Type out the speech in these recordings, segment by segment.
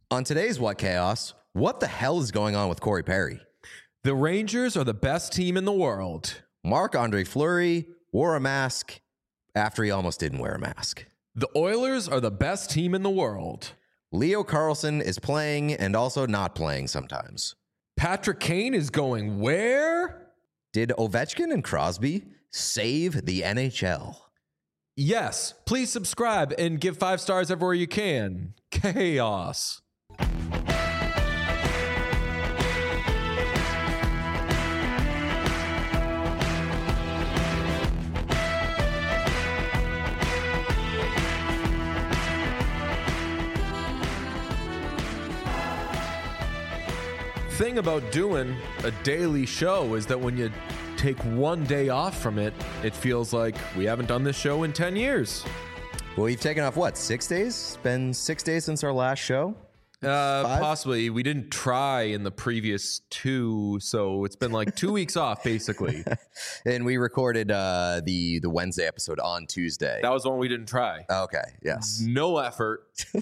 On today's What Chaos, what the hell is going on with Corey Perry? The Rangers are the best team in the world. Marc-Andre Fleury wore a mask after he almost didn't wear a mask. The Oilers are the best team in the world. Leo Carlsson is playing and also not playing sometimes. Patrick Kane is going where? Did Ovechkin and Crosby save the NHL? Yes, please subscribe and give 5 stars everywhere you can. Chaos. Thing about doing a daily show is that when you take one day off from it, it feels like we haven't done this show in 10 years. Well, we've taken off, what, 6 days? It's been 6 days since our last show? Possibly. We didn't try in the previous 2, so it's been like 2 weeks off, basically. And we recorded the Wednesday episode on Tuesday. That was the one we didn't try. Okay, yes. No effort.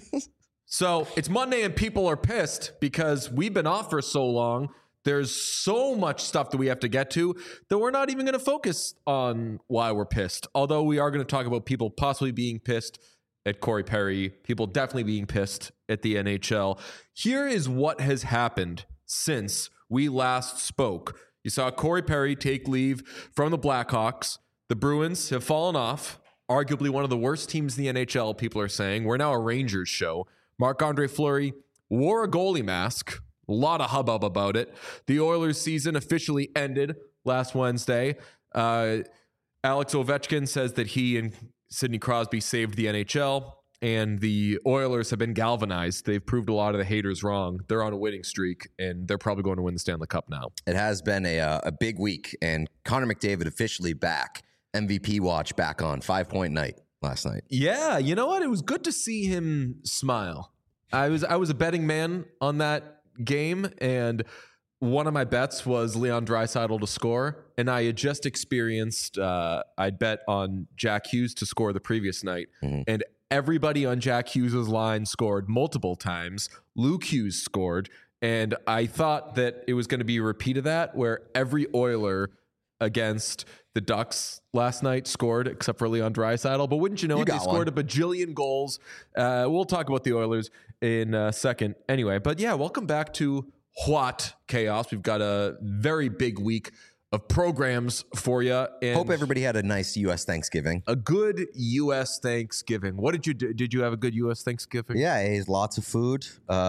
So it's Monday and people are pissed because we've been off for so long. There's so much stuff that we have to get to that we're not even going to focus on why we're pissed. Although we are going to talk about people possibly being pissed at Corey Perry, people definitely being pissed at the NHL. Here is what has happened since we last spoke. You saw Corey Perry take leave from the Blackhawks. The Bruins have fallen off. Arguably one of the worst teams in the NHL, people are saying. We're now a Rangers show. Marc-Andre Fleury wore a goalie mask. A lot of hubbub about it. The Oilers season officially ended last Wednesday. Alex Ovechkin says that he and Sidney Crosby saved the NHL, and the Oilers have been galvanized. They've proved a lot of the haters wrong. They're on a winning streak, and they're probably going to win the Stanley Cup now. It has been a big week, and Connor McDavid officially back. MVP watch back on 5-point night last night. Yeah, you know what? It was good to see him smile. I was a betting man on that game, and one of my bets was Leon Draisaitl to score, and I had just experienced I'd bet on Jack Hughes to score the previous night, and everybody on Jack Hughes' line scored multiple times. Luke Hughes scored, and I thought that it was going to be a repeat of that, where every Oiler against the Ducks last night scored, except for Leon Draisaitl. But wouldn't you know it, they scored a bajillion goals. We'll talk about the Oilers in a second anyway. But yeah, welcome back to What Chaos. We've got a very big week of programs for you. And hope everybody had a nice U.S. Thanksgiving. A good U.S. Thanksgiving. What did you do? Did you have a good U.S. Thanksgiving? Yeah, I ate lots of food.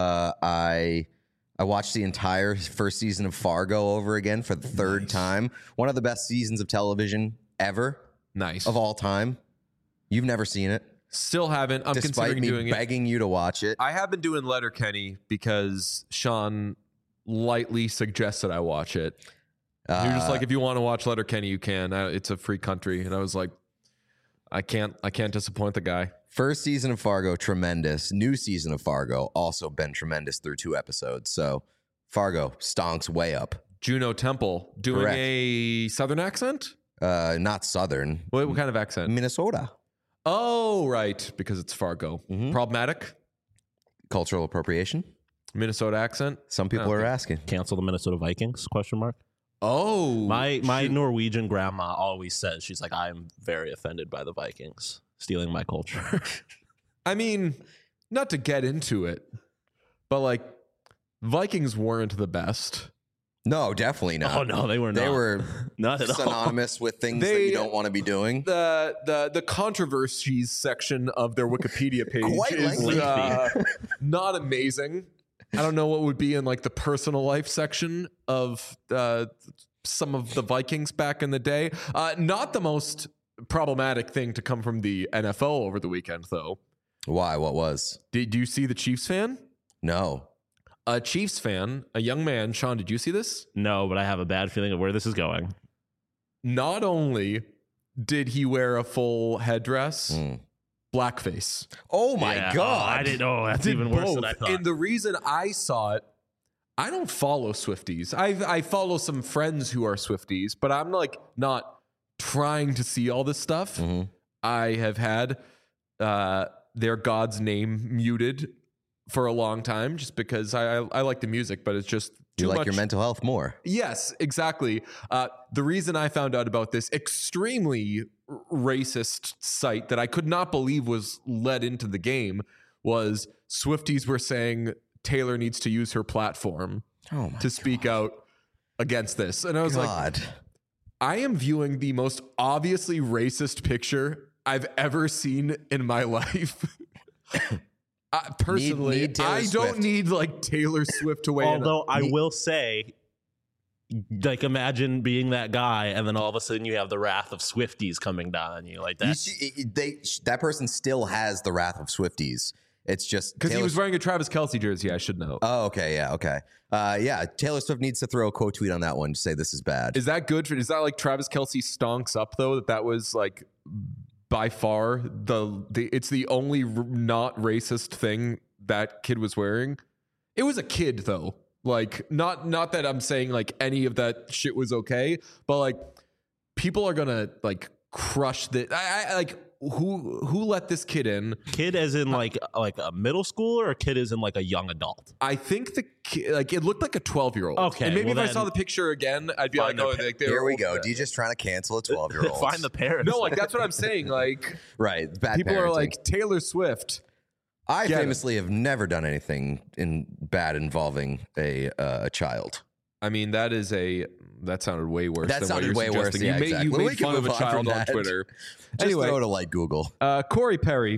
I watched the entire first season of Fargo over again for the third time. One of the best seasons of television ever. Nice. Of all time. You've never seen it. Still haven't. I'm considering doing it. Despite me begging you to watch it. I have been doing Letterkenny because Sean lightly suggested I watch it. You're just like, if you want to watch Letterkenny, you can. It's a free country. And I was like, I can't disappoint the guy. First season of Fargo, tremendous. New season of Fargo, also been tremendous through 2 episodes. So Fargo stonks way up. Juno Temple doing Correct. A Southern accent? Not Southern. What kind of accent? Minnesota. Oh, right. Because it's Fargo. Problematic? Cultural appropriation. Minnesota accent? Some people are asking. Cancel the Minnesota Vikings? Question mark. Oh. My Norwegian grandma always says, she's like, I'm very offended by the Vikings stealing my culture. I mean, not to get into it, but like Vikings weren't the best. No, definitely not. Oh no, they were not. They were not at all. synonymous with things that you don't want to be doing. The controversies section of their Wikipedia page Quite is not amazing. I don't know what would be in like the personal life section of some of the Vikings back in the day. Not the most problematic thing to come from the NFL over the weekend, though. Why? What was? Did you see the Chiefs fan? No. A Chiefs fan, a young man. Sean, did you see this? No, but I have a bad feeling of where this is going. Not only did he wear a full headdress, blackface. Oh my God. I didn't know. That's even worse than I thought. And the reason I saw it, I don't follow Swifties. I follow some friends who are Swifties, but I'm like not trying to see all this stuff. I have had their God's name muted for a long time, just because I like the music, but it's just too You like much. your mental health more. Yes, exactly. The reason I found out about this extremely racist site that I could not believe was led into the game was Swifties were saying Taylor needs to use her platform Oh my to speak out against this. And I was like, God. I am viewing the most obviously racist picture I've ever seen in my life. Personally, Need Taylor I Swift. don't need like Taylor Swift to weigh in. Although I will say, like, imagine being that guy, and then all of a sudden you have the wrath of Swifties coming down on you like that. That person still has the wrath of Swifties. It's just Because he Taylor was wearing a Travis Kelce jersey, I should know. Oh, okay, yeah, okay. Yeah, Taylor Swift needs to throw a quote tweet on that one to say this is bad. Is that good? Is that like Travis Kelce stonks up though? That was like by far it's the only not racist thing that kid was wearing. It was a kid though. Like not that I'm saying like any of that shit was okay, but like people are gonna like crush the. I like who let this kid in? Kid as in like a middle schooler, or kid as in like a young adult? I think the kid, like it looked like a 12-year-old. Okay, and maybe well if I then saw the picture again, I'd be like, find oh, their like, they Here were we old go. for that. DJ's trying to cancel a 12-year-old. Find the parents. No, like that's what I'm saying. Like right. Bad people are parenting. like Taylor Swift. I get it. famously have never done anything bad involving a child. I mean, that sounded way worse. That than sounded what way you're worse. suggesting. Yeah, you made, exactly. you We made can fun of move a on child from on that. Twitter. Just Anyway, throw to like Google. Corey Perry,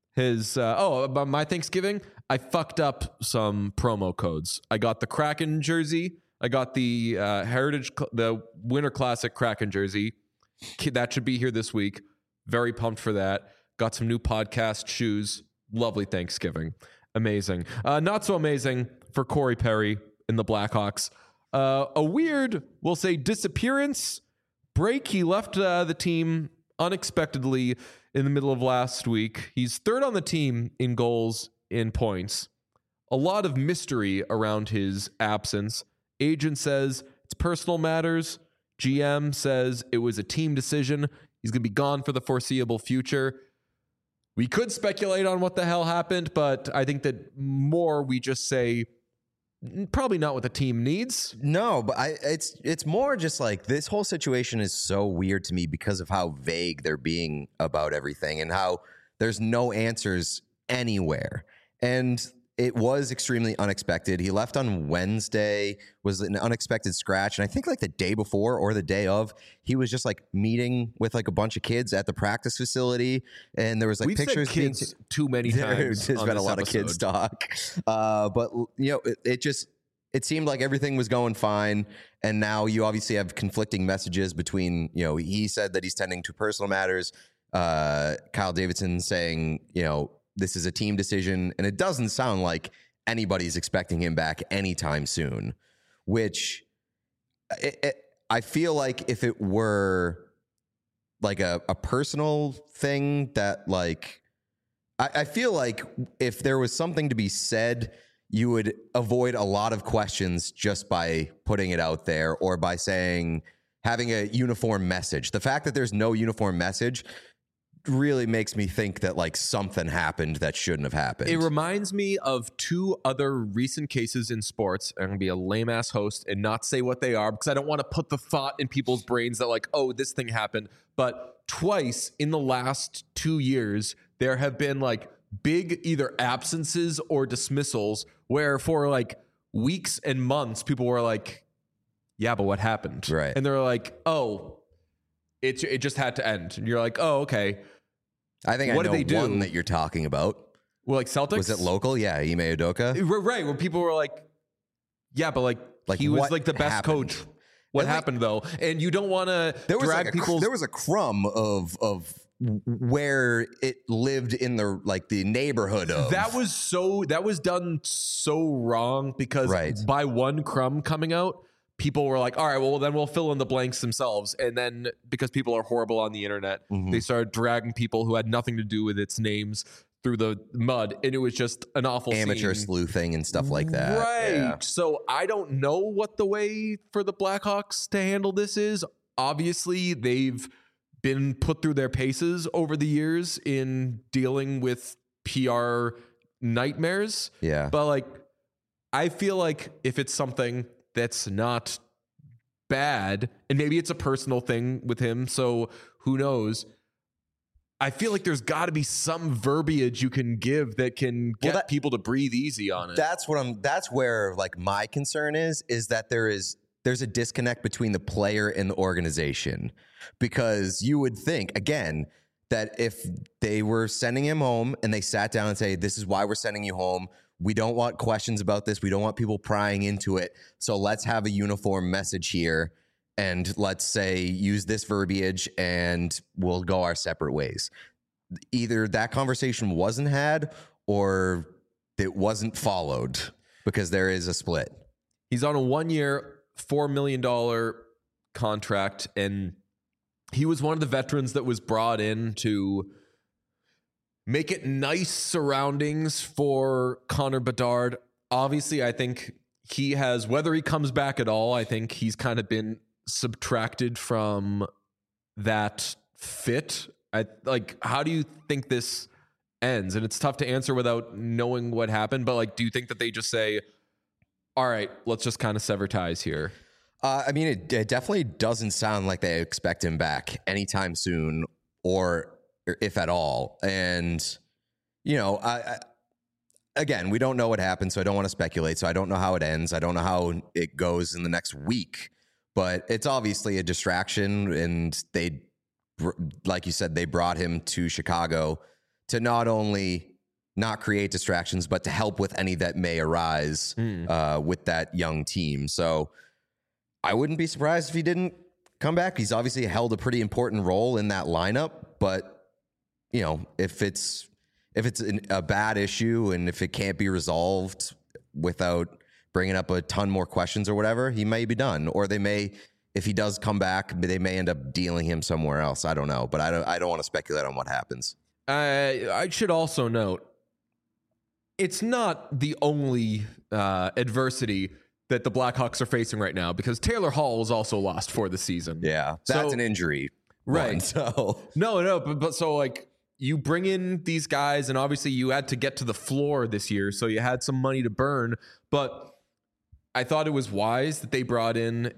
about my Thanksgiving, I fucked up some promo codes. I got the Kraken jersey. I got the the Winter Classic Kraken jersey. That should be here this week. Very pumped for that. Got some new podcast shoes. Lovely Thanksgiving. Amazing. Not so amazing for Corey Perry in the Blackhawks. A weird, we'll say, disappearance break. He left the team unexpectedly in the middle of last week. He's third on the team in goals, in points. A lot of mystery around his absence. Agent says it's personal matters. GM says it was a team decision. He's going to be gone for the foreseeable future. We could speculate on what the hell happened, but I think that more we just say probably not what the team needs. No, but it's more just like this whole situation is so weird to me because of how vague they're being about everything and how there's no answers anywhere. And it was extremely unexpected. He left on Wednesday, was an unexpected scratch. And I think like the day before or the day of, he was just like meeting with like a bunch of kids at the practice facility. And there was like We've pictures said kids too many times. There's on been a this lot of episode. kids talk. But you know, it seemed like everything was going fine. And now you obviously have conflicting messages between, you know, he said that he's tending to personal matters. Kyle Davidson saying, you know, this is a team decision, and it doesn't sound like anybody's expecting him back anytime soon, which I feel like if it were like a personal thing that like, I feel like if there was something to be said, you would avoid a lot of questions just by putting it out there or by having a uniform message. The fact that there's no uniform message really makes me think that like something happened that shouldn't have happened. It reminds me of two other recent cases in sports. I'm going to be a lame ass host and not say what they are because I don't want to put the thought in people's brains that like, oh, this thing happened. But twice in the last 2 years, there have been like big either absences or dismissals where for like weeks and months, people were like, yeah, but what happened? Right. And they're like, oh, it just had to end. And you're like, oh, okay. I think What I did know they do? one that you're talking about. Well, like Celtics? Was it local? Yeah, Ime Udoka. Right, where people were like, yeah, but like he was what like the best happened? coach. What And, like, happened though? And you don't want to There was drag like people's. there was a crumb of where it lived in the like the neighborhood of that was done so wrong because Right. by one crumb coming out, people were like, all right, well, then we'll fill in the blanks themselves. And then because people are horrible on the internet, Mhm. they started dragging people who had nothing to do with its names through the mud. And it was just an awful amateur scene. sleuthing and stuff like that. Right. Yeah. So I don't know what the way for the Blackhawks to handle this is. Obviously, they've been put through their paces over the years in dealing with PR nightmares. Yeah. But like, I feel like if it's something that's not bad, and maybe it's a personal thing with him, so who knows? I feel like there's got to be some verbiage you can give that can get people to breathe easy on it. That's where like my concern is that there's a disconnect between the player and the organization, because you would think again that if they were sending him home and they sat down and say, this is why we're sending you home. We don't want questions about this. We don't want people prying into it. So let's have a uniform message here. And let's say use this verbiage and we'll go our separate ways. Either that conversation wasn't had or it wasn't followed, because there is a split. He's on a 1-year, $4 million contract, and he was one of the veterans that was brought in to make it nice surroundings for Connor Bedard. Obviously, I think he has, whether he comes back at all, I think he's kind of been subtracted from that fit. How do you think this ends? And it's tough to answer without knowing what happened, but like, do you think that they just say, all right, let's just kind of sever ties here? I mean, it definitely doesn't sound like they expect him back anytime soon, or if at all. And, you know, again, we don't know what happened, so I don't want to speculate. So I don't know how it ends. I don't know how it goes in the next week. But it's obviously a distraction, and they, like you said, they brought him to Chicago to not only not create distractions, but to help with any that may arise with that young team. So I wouldn't be surprised if he didn't come back. He's obviously held a pretty important role in that lineup, but you know, if it's a bad issue and if it can't be resolved without bringing up a ton more questions or whatever, he may be done. Or they may, if he does come back, they may end up dealing him somewhere else. I don't know, but I don't want to speculate on what happens. I should also note, it's not the only adversity that the Blackhawks are facing right now, because Taylor Hall was also lost for the season. Yeah, that's an injury. Right. One, so No, but so like, you bring in these guys, and obviously you had to get to the floor this year, so you had some money to burn, but I thought it was wise that they brought in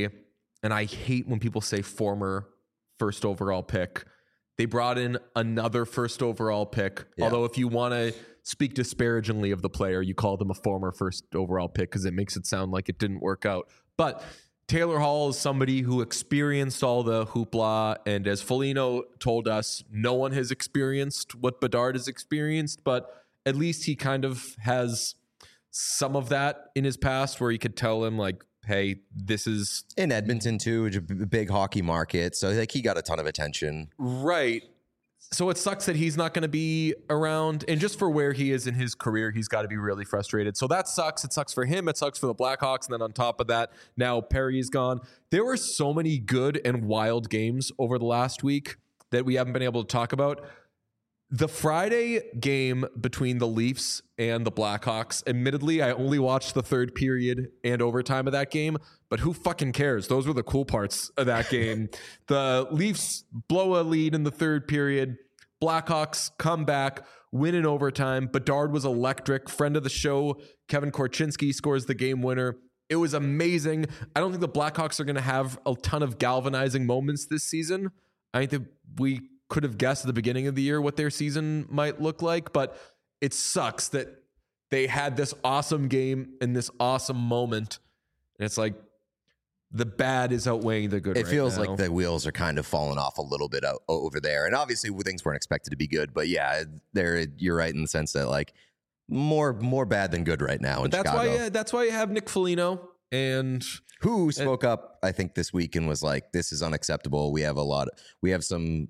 and I hate when people say former first overall pick. They brought in another first overall pick. Yeah. Although if you want to speak disparagingly of the player, you call them a former first overall pick because it makes it sound like it didn't work out. But Taylor Hall is somebody who experienced all the hoopla, and as Foligno told us, no one has experienced what Bedard has experienced, but at least he kind of has some of that in his past where you could tell him like, hey, this is in Edmonton too, which is a big hockey market. So like he got a ton of attention. Right. So it sucks that he's not going to be around, and just for where he is in his career, he's got to be really frustrated. So that sucks. It sucks for him. It sucks for the Blackhawks. And then on top of that, now Perry's gone. There were so many good and wild games over the last week that we haven't been able to talk about. The Friday game between the Leafs and the Blackhawks, admittedly, I only watched the third period and overtime of that game, but who fucking cares? Those were the cool parts of that game. The Leafs blow a lead in the third period. Blackhawks come back, win in overtime. Bedard was electric. Friend of the show, Kevin Korchinski, scores the game winner. It was amazing. I don't think the Blackhawks are going to have a ton of galvanizing moments this season. I think that we could have guessed at the beginning of the year what their season might look like, but it sucks that they had this awesome game and this awesome moment, and it's like the bad is outweighing the good. It feels like the wheels are kind of falling off a little bit over there, and obviously things weren't expected to be good, but yeah, you're right in the sense that like more bad than good right now in Chicago. That's why you have Nick Foligno, and who spoke up, I think, this week and was like, this is unacceptable. We have some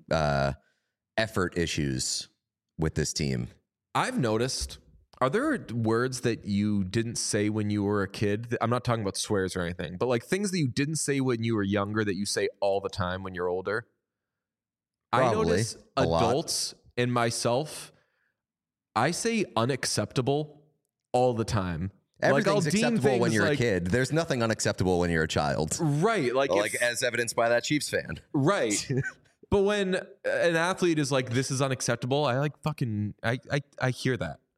effort issues with this team. I've noticed, are there words that you didn't say when you were a kid? I'm not talking about swears or anything, but like things that you didn't say when you were younger that you say all the time when you're older. Probably, I notice adults and myself, I say unacceptable all the time. Everything's acceptable when you're a kid. There's nothing unacceptable when you're a child. Right. Like as evidenced by that Chiefs fan. Right. But when an athlete is like, this is unacceptable, I like fucking, I hear that.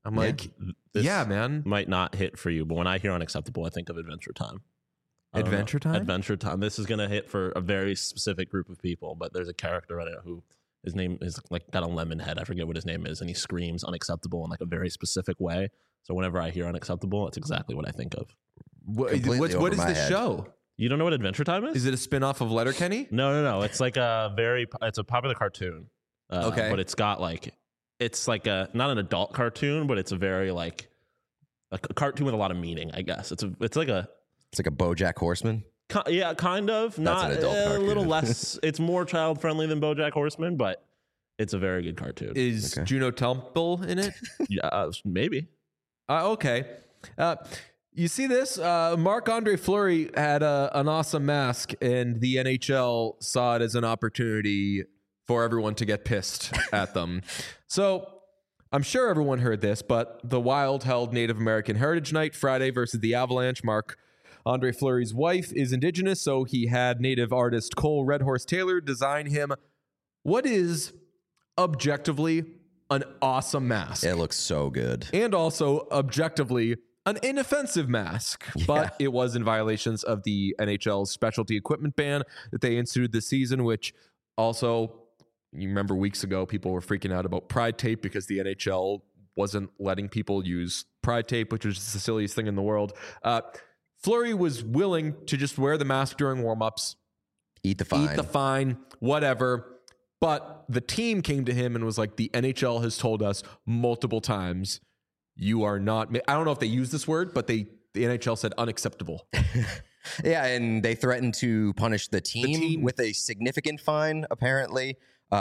I'm like, This yeah, man. might not hit for you, but when I hear unacceptable, I think of Adventure Time. I don't know. Adventure Time? Adventure Time. This is gonna hit for a very specific group of people, but there's a character in it who his name is like got a lemon head. I forget what his name is, and he screams unacceptable in like a very specific way. So whenever I hear unacceptable, that's exactly what I think of. Completely What over is my this head. show? You don't know what Adventure Time is? Is it a spin-off of Letterkenny? No. It's like it's a popular cartoon. Okay. But it's got like, it's like a, not an adult cartoon, but it's a very like a cartoon with a lot of meaning, I guess. It's like a, It's like a BoJack Horseman. yeah, kind of. Not an adult a cartoon. little less. It's more child friendly than BoJack Horseman, but it's a very good cartoon. Is Okay. Juno Temple in it? Yeah, maybe. Okay. You see this? Marc-Andre Fleury had an awesome mask, and the NHL saw it as an opportunity for everyone to get pissed at them. So I'm sure everyone heard this, but the Wild held Native American Heritage Night Friday versus the Avalanche. Marc-Andre Fleury's wife is Indigenous, so he had Native artist Cole Red Horse Taylor design him what is objectively an awesome mask. It looks so good. And also objectively an inoffensive mask, but it was in violations of the NHL's specialty equipment ban that they instituted this season, which also, you remember weeks ago, people were freaking out about Pride tape because the NHL wasn't letting people use Pride tape, which was the silliest thing in the world. Fleury was willing to just wear the mask during warmups, Eat the fine. eat the fine, whatever. But the team came to him and was like, the NHL has told us multiple times, you are not, I don't know if they used this word, but the NHL said unacceptable. Yeah, and they threatened to punish the team with a significant fine, apparently.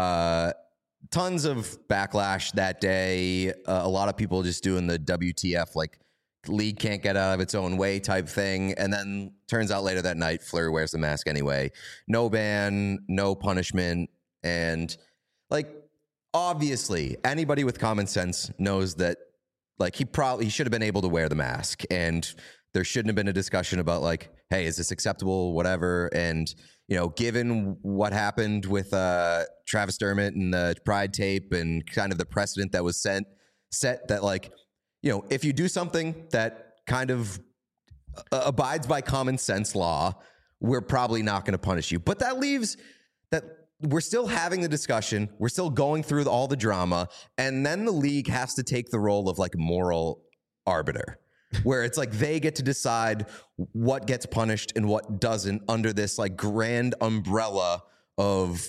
Tons of backlash that day. A lot of people just doing the WTF, like, league can't get out of its own way type thing. And then turns out later that night, Fleury wears the mask anyway. No ban, no punishment. And, like, obviously, anybody with common sense knows that, like, he should have been able to wear the mask. And there shouldn't have been a discussion about, like, hey, is this acceptable, whatever. And, you know, given what happened with Travis Dermott and the Pride tape and kind of the precedent that was set that, like, you know, if you do something that kind of abides by common sense law, we're probably not going to punish you. But that leaves that we're still having the discussion. We're still going through all the drama. And then the league has to take the role of, like, moral arbiter, where it's like they get to decide what gets punished and what doesn't under this, like, grand umbrella of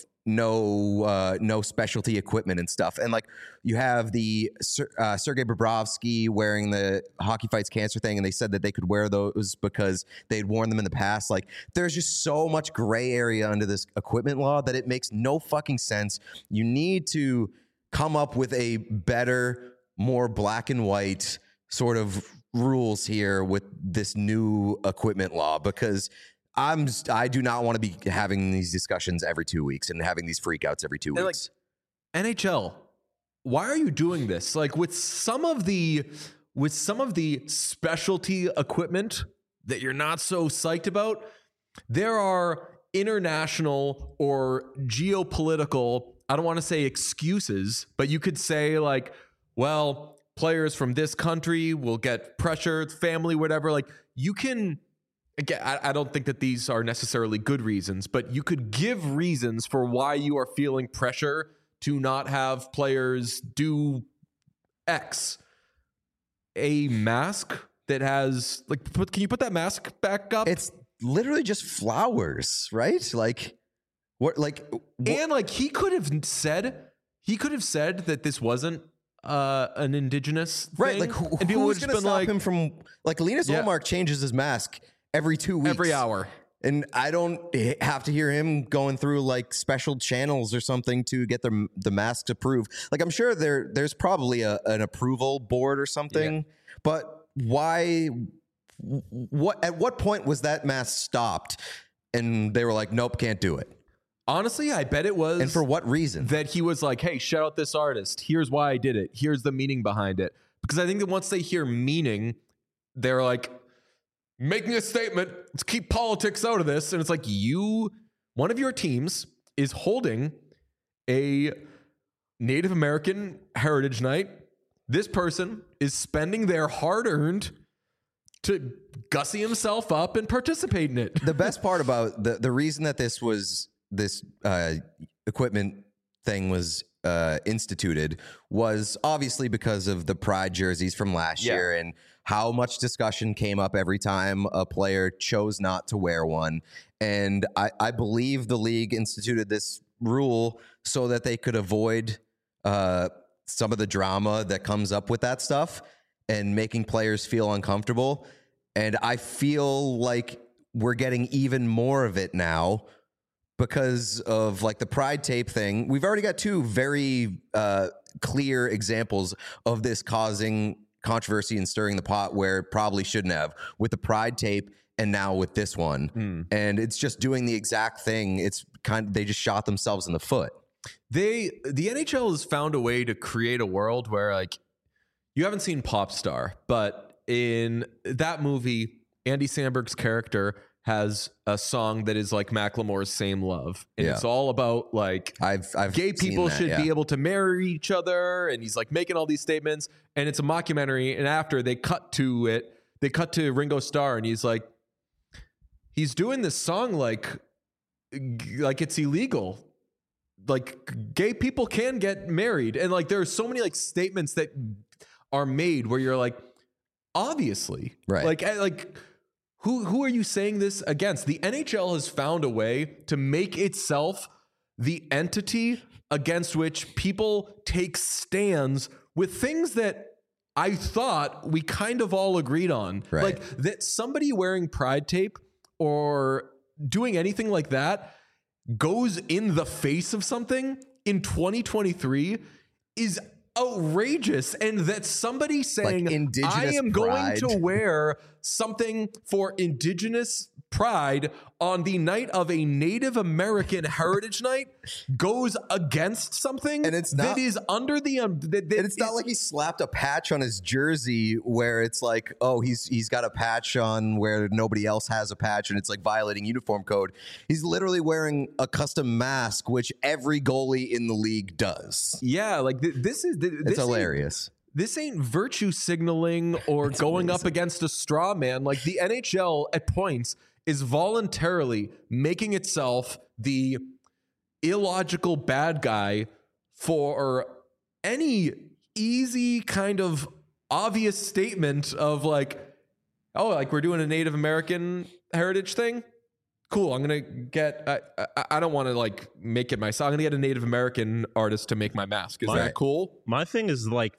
no specialty equipment and stuff. And, like, you have the Sergei Bobrovsky wearing the Hockey Fights Cancer thing, and they said that they could wear those because they'd worn them in the past. Like, there's just so much gray area under this equipment law that it makes no fucking sense. You need to come up with a better, more black and white sort of rules here with this new equipment law, because I do not want to be having these discussions every 2 weeks and having these freakouts every 2 weeks. Like, NHL, why are you doing this? Like, with some of the specialty equipment that you're not so psyched about, there are international or geopolitical, I don't want to say excuses, but you could say, like, well, players from this country will get pressure, family, whatever. Like, you can, again, I don't think that these are necessarily good reasons, but you could give reasons for why you are feeling pressure to not have players do X. A mask that has, like, can you put that mask back up? It's literally just flowers, right? Like, what? Like, and, like, he could have said that this wasn't an indigenous thing. right? Like, and people would who's have going to been stop like, him from, like, Linus Yeah. Ullmark changes his mask every 2 weeks, every hour. and I don't have to hear him going through, like, special channels or something to get the masks approved. Like, I'm sure there's probably an approval board or something, but why? At what point was that mask stopped? And they were like, nope, can't do it. Honestly, I bet it was. And for what reason? That he was like, hey, shout out this artist. Here's why I did it. Here's the meaning behind it. Because I think that once they hear meaning, they're like, making a statement, let's keep politics out of this. And it's like, one of your teams is holding a Native American Heritage Night this person is spending their hard-earned to gussy himself up and participate in it. The best part about the reason that this equipment thing was instituted was obviously because of the Pride jerseys from last year and how much discussion came up every time a player chose not to wear one. And I believe the league instituted this rule so that they could avoid some of the drama that comes up with that stuff and making players feel uncomfortable. And I feel like we're getting even more of it now because of like the Pride tape thing. We've already got two very clear examples of this causing controversy and stirring the pot where it probably shouldn't have, with the Pride tape and now with this one. And it's just doing the exact thing. It's they just shot themselves in the foot. The NHL has found a way to create a world where, like, you haven't seen Popstar, but in that movie, Andy Samberg's character has a song that is like Macklemore's Same Love. And it's all about like I've gay people that, should be able to marry each other. And he's like making all these statements, and it's a mockumentary. And after they cut to Ringo Starr, and he's like, he's doing this song like it's illegal. Like gay people can get married. And like there are so many like statements that are made where you're like, obviously, right? Like who are you saying this against? The NHL has found a way to make itself the entity against which people take stands with things that I thought we kind of all agreed on. Right. Like that somebody wearing Pride tape or doing anything like that goes in the face of something in 2023 is outrageous. And that somebody saying, like I am pride. going to wear something for Indigenous pride on the night of a Native American Heritage Night goes against something, and it's not, that is under the it's not like he slapped a patch on his jersey where it's like, oh, he's got a patch on where nobody else has a patch and it's like violating uniform code. He's literally wearing a custom mask, which every goalie in the league does. Yeah, like this it's hilarious. This ain't virtue signaling or going up against a straw man. Like the NHL at points is voluntarily making itself the illogical bad guy for any easy kind of obvious statement of like, oh, like we're doing a Native American heritage thing. Cool. I'm going to get, I don't want to like make it myself. I'm going to get a Native American artist to make my mask. Is that cool? My thing is like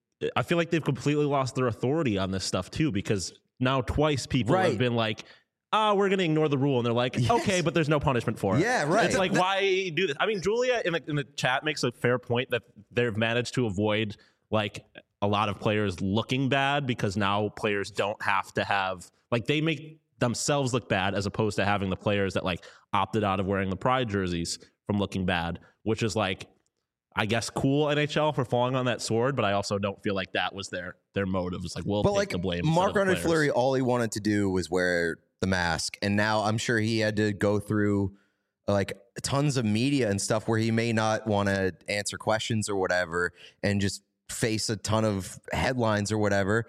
I feel like they've completely lost their authority on this stuff too, because now twice people have been like, we're going to ignore the rule. And they're like, okay, but there's no punishment for it. Yeah, right. It's like, why do this? I mean, Julia in the chat makes a fair point that they've managed to avoid like a lot of players looking bad because now players don't have to have, like they make themselves look bad as opposed to having the players that like opted out of wearing the Pride jerseys from looking bad, which is like, I guess cool NHL for falling on that sword, but I also don't feel like that was their motive. It's like, we'll take the blame. Marc-Andre Fleury, all he wanted to do was wear the mask, and now I'm sure he had to go through like tons of media and stuff where he may not want to answer questions or whatever, and just face a ton of headlines or whatever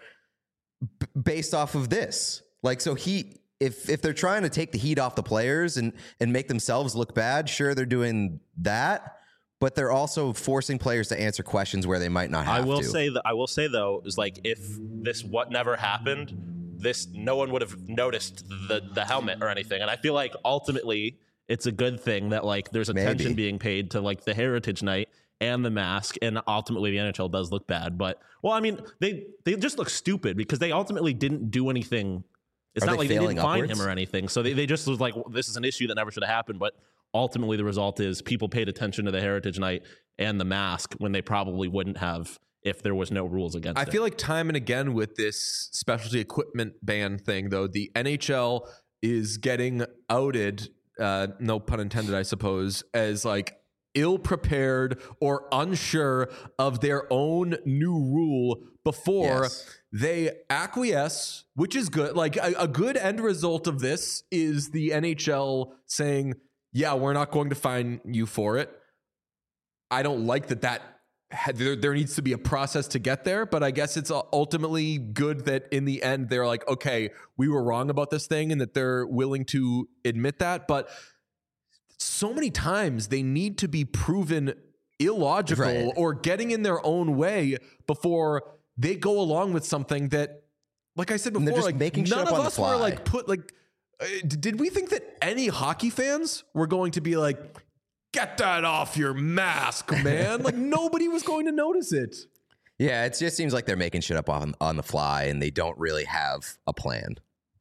based off of this. Like, so if they're trying to take the heat off the players and make themselves look bad, sure, they're doing that. But they're also forcing players to answer questions where they might not have to. I will say though, is like if this never happened, no one would have noticed the helmet or anything. And I feel like ultimately it's a good thing that like there's attention being paid to like the Heritage Night and the mask, and ultimately the NHL does look bad. But well, I mean, they just look stupid because they ultimately didn't do anything. It's not like they didn't find him or anything. So they just was like, well, this is an issue that never should have happened. But ultimately the result is people paid attention to the Heritage Night and the mask when they probably wouldn't have if there was no rules against it. I feel like time and again with this specialty equipment ban thing, though, the NHL is getting outed, no pun intended, I suppose, as like ill-prepared or unsure of their own new rule before they acquiesce, which is good. Like a good end result of this is the NHL saying, yeah, we're not going to fine you for it. I don't like that there needs to be a process to get there, but I guess it's ultimately good that in the end they're like, okay, we were wrong about this thing, and that they're willing to admit that. But so many times they need to be proven illogical Right. or getting in their own way before they go along with something that, like I said And they're before, just like making shit none up of on the us were fly. like did we think that any hockey fans were going to be like, get that off your mask, man? Like nobody was going to notice it. Yeah, it just seems like they're making shit up on the fly, and they don't really have a plan.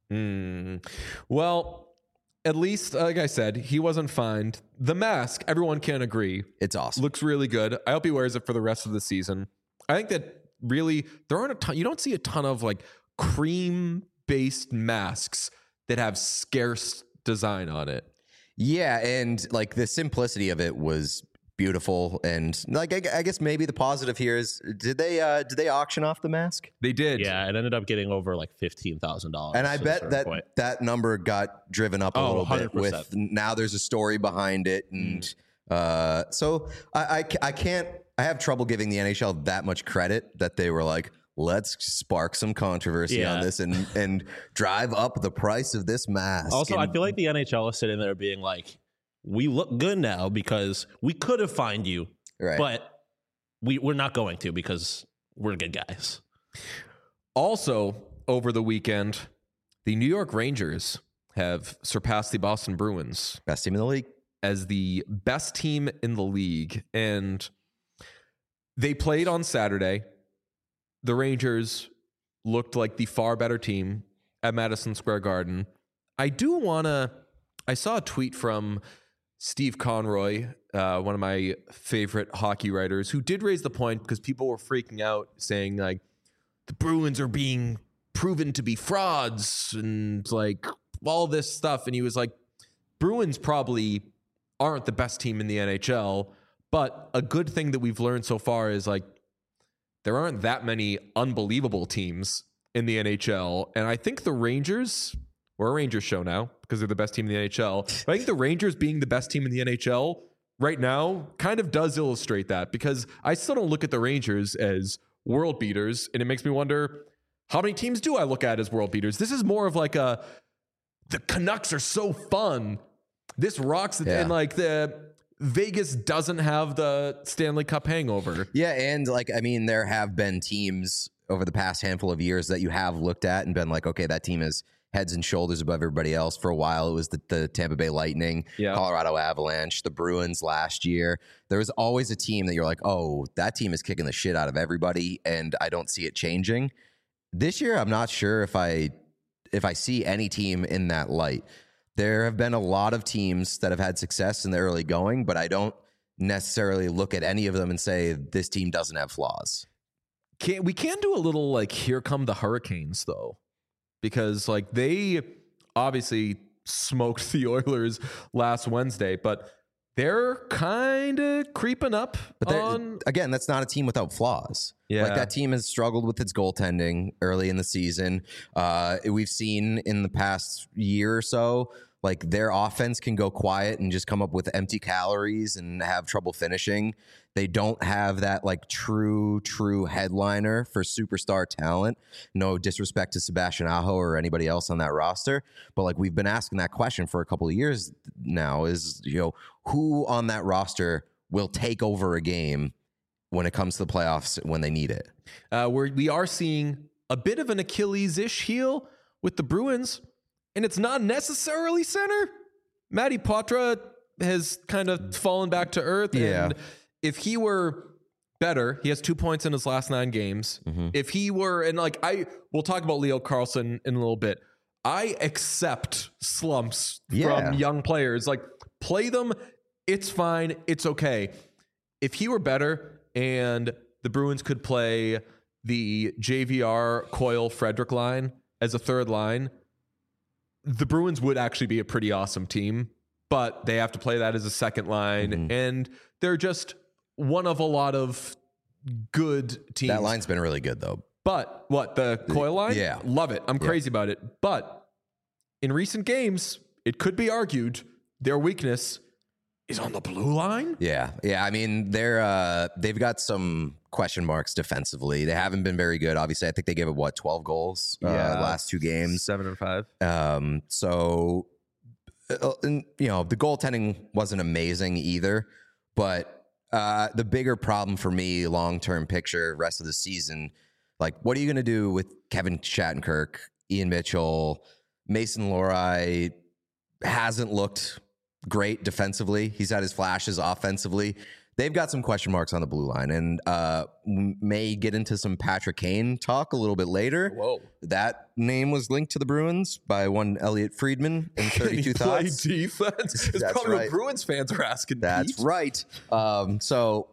Well, at least, like I said, he wasn't fined. The mask, everyone can agree, It's awesome. looks really good. I hope he wears it for the rest of the season. I think that really there aren't a ton. You don't see a ton of like cream-based masks that have scarce design on it. Yeah, and like the simplicity of it was beautiful, and like I guess maybe the positive here is did they auction off the mask? They did. Yeah, it ended up getting over like $15,000. And I at a bet certain that point. that number got driven up a Oh, little bit 100%. with now there's a story behind it, and so I can't, I have trouble giving the NHL that much credit that they were like, let's spark some controversy on Yeah. this and drive up the price of this mask. Also, and, I feel like the NHL is sitting there being like, we look good now because we could have fined you, right. but we're not going to because we're good guys. Also, over the weekend, the New York Rangers have surpassed the Boston Bruins Best team in the league. as the best team in the league. And they played on Saturday. The Rangers looked like the far better team at Madison Square Garden. I saw a tweet from Steve Conroy, one of my favorite hockey writers, who did raise the point because people were freaking out saying like the Bruins are being proven to be frauds and like all this stuff. And he was like, Bruins probably aren't the best team in the NHL, but a good thing that we've learned so far is like there aren't that many unbelievable teams in the NHL. And I think the Rangers, we're a Rangers show now because they're the best team in the NHL. But I think the Rangers being the best team in the NHL right now kind of does illustrate that, because I still don't look at the Rangers as world beaters. And it makes me wonder, how many teams do I look at as world beaters? This is more of like the Canucks are so fun. This rocks. Yeah. And like the Vegas doesn't have the Stanley Cup hangover. Yeah, and like I mean, there have been teams over the past handful of years that you have looked at and been like, okay, that team is heads and shoulders above everybody else. For a while, it was the Tampa Bay Lightning, Yeah. Colorado Avalanche, the Bruins last year. There was always a team that you're like, oh, that team is kicking the shit out of everybody, and I don't see it changing. This year, I'm not sure if I see any team in that light. There have been a lot of teams that have had success in the early going, but I don't necessarily look at any of them and say this team doesn't have flaws. We can do a little like here come the Hurricanes though, because like they obviously smoked the Oilers last Wednesday, but they're kind of creeping up. But on again, that's not a team without flaws. Yeah. Like that team has struggled with its goaltending early in the season. We've seen in the past year or so, like their offense can go quiet and just come up with empty calories and have trouble finishing. They don't have that like true headliner for superstar talent. No disrespect to Sebastian Aho or anybody else on that roster, but like we've been asking that question for a couple of years now is, you know, who on that roster will take over a game when it comes to the playoffs when they need it. we are seeing a bit of an Achilles-ish heel with the Bruins, and it's not necessarily center. Matty Poitras has kind of fallen back to earth. Yeah. And if he were better, he has 2 points in his last 9 games. If he were, and like we'll talk about Leo Carlsson in a little bit. I accept slumps Yeah. from young players. Like play them. It's fine. It's okay. If he were better and the Bruins could play the JVR Coyle Frederick line as a third line, the Bruins would actually be a pretty awesome team, but they have to play that as a second line, and they're just one of a lot of good teams. That line's been really good though. But what, the Coyle line? Yeah. Love it. I'm crazy about it. But in recent games, it could be argued their weakness is on the blue line. Yeah. I mean, they've got some question marks defensively. They haven't been very good. Obviously, I think they gave up 12 goals last 2 games. 7 or 5. So, the goaltending wasn't amazing either. But the bigger problem for me, long-term picture, rest of the season, like, what are you going to do with Kevin Shattenkirk, Ian Mitchell, Mason Lohrei? Hasn't looked great defensively. He's had his flashes offensively. They've got some question marks on the blue line, and may get into some Patrick Kane talk a little bit later. Whoa. That name was linked to the Bruins by one Elliot Friedman in 32 play Thoughts. defense? It's That's probably right. what Bruins fans are asking. That's Pete. right. So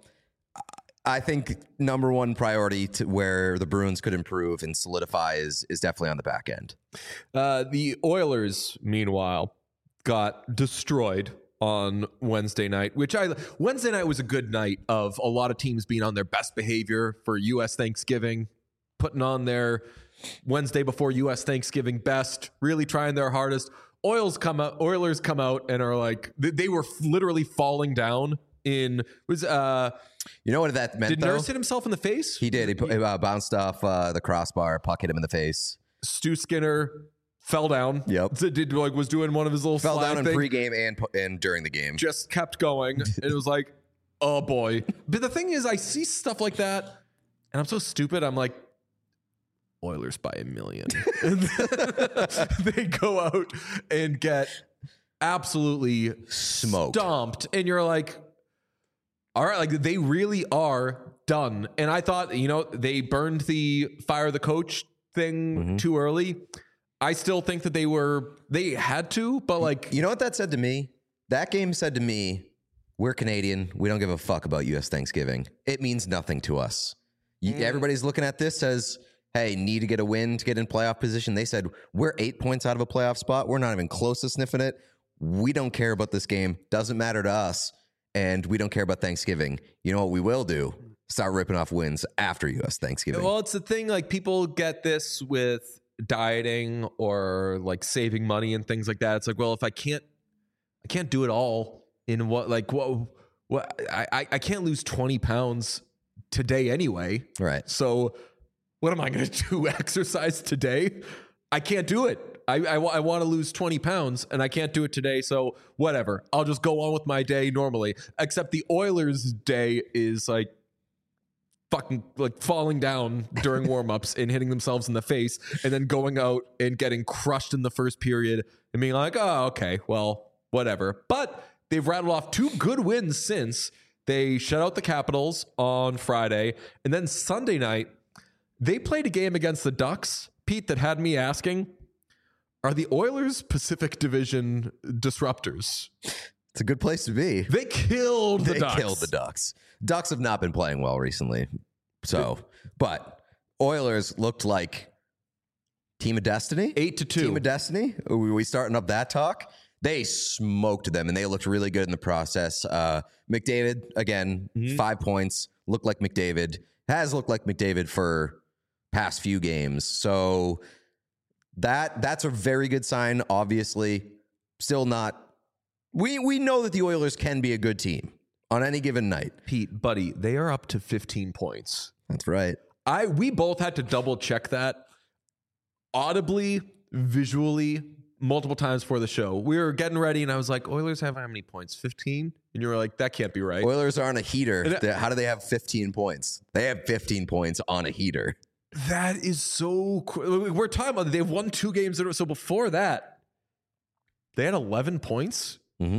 I think number one priority to where the Bruins could improve and solidify is definitely on the back end. The Oilers, meanwhile, got destroyed on Wednesday night, Wednesday night was a good night of a lot of teams being on their best behavior for U.S. Thanksgiving, putting on their Wednesday before U.S. Thanksgiving best, really trying their hardest. Oilers come out and are like, they were literally falling down in, you know what that meant, did though? Nurse hit himself in the face? He did. He bounced off the crossbar, puck hit him in the face. Stu Skinner fell down. Yep. Was doing one of his little Fell slide down in thing. pregame and during the game. Just kept going. And it was like, oh boy. But the thing is, I see stuff like that and I'm so stupid. I'm like, Oilers by 1 million. And they go out and get absolutely Smoked. stomped. And you're like, all right, like they really are done. And I thought, they burned the fire the coach thing too early. I still think that they had to, but like, You know what that said to me? That game said to me, we're Canadian. We don't give a fuck about U.S. Thanksgiving. It means nothing to us. Everybody's looking at this as, hey, need to get a win to get in playoff position. They said, we're 8 points out of a playoff spot. We're not even close to sniffing it. We don't care about this game. Doesn't matter to us. And we don't care about Thanksgiving. You know what we will do? Start ripping off wins after U.S. Thanksgiving. well, it's the thing, like people get this with dieting or like saving money and things like that. It's like, well, if I can't do it all in I can't lose 20 pounds today anyway. Right. So what am I going to do? Exercise today? I can't do it. I want to lose 20 pounds and I can't do it today. So whatever. I'll just go on with my day normally. Except the Oilers' day is like fucking like falling down during warm-ups and hitting themselves in the face and then going out and getting crushed in the first period and being like, oh, okay, well, whatever. But they've rattled off 2 good wins since. They shut out the Capitals on Friday. And then Sunday night, they played a game against the Ducks, Pete, that had me asking, are the Oilers Pacific Division disruptors? It's a good place to be. They killed the Ducks. They killed the Ducks. Ducks have not been playing well recently. So, but Oilers looked like Team of Destiny. 8-2. Team of Destiny. Are we starting up that talk? They smoked them, and they looked really good in the process. McDavid, again, 5 points. Looked like McDavid. Has looked like McDavid for past few games. So that's a very good sign, obviously. Still not... We know that the Oilers can be a good team on any given night. Pete, buddy, they are up to 15 points. That's right. We both had to double check that audibly, visually, multiple times for the show. We were getting ready and I was like, Oilers have how many points? 15? And you were like, that can't be right. Oilers are on a heater. How do they have 15 points? They have 15 points on a heater. That is so cool. We're talking about they've won 2 games. So before that, they had 11 points. Mm-hmm.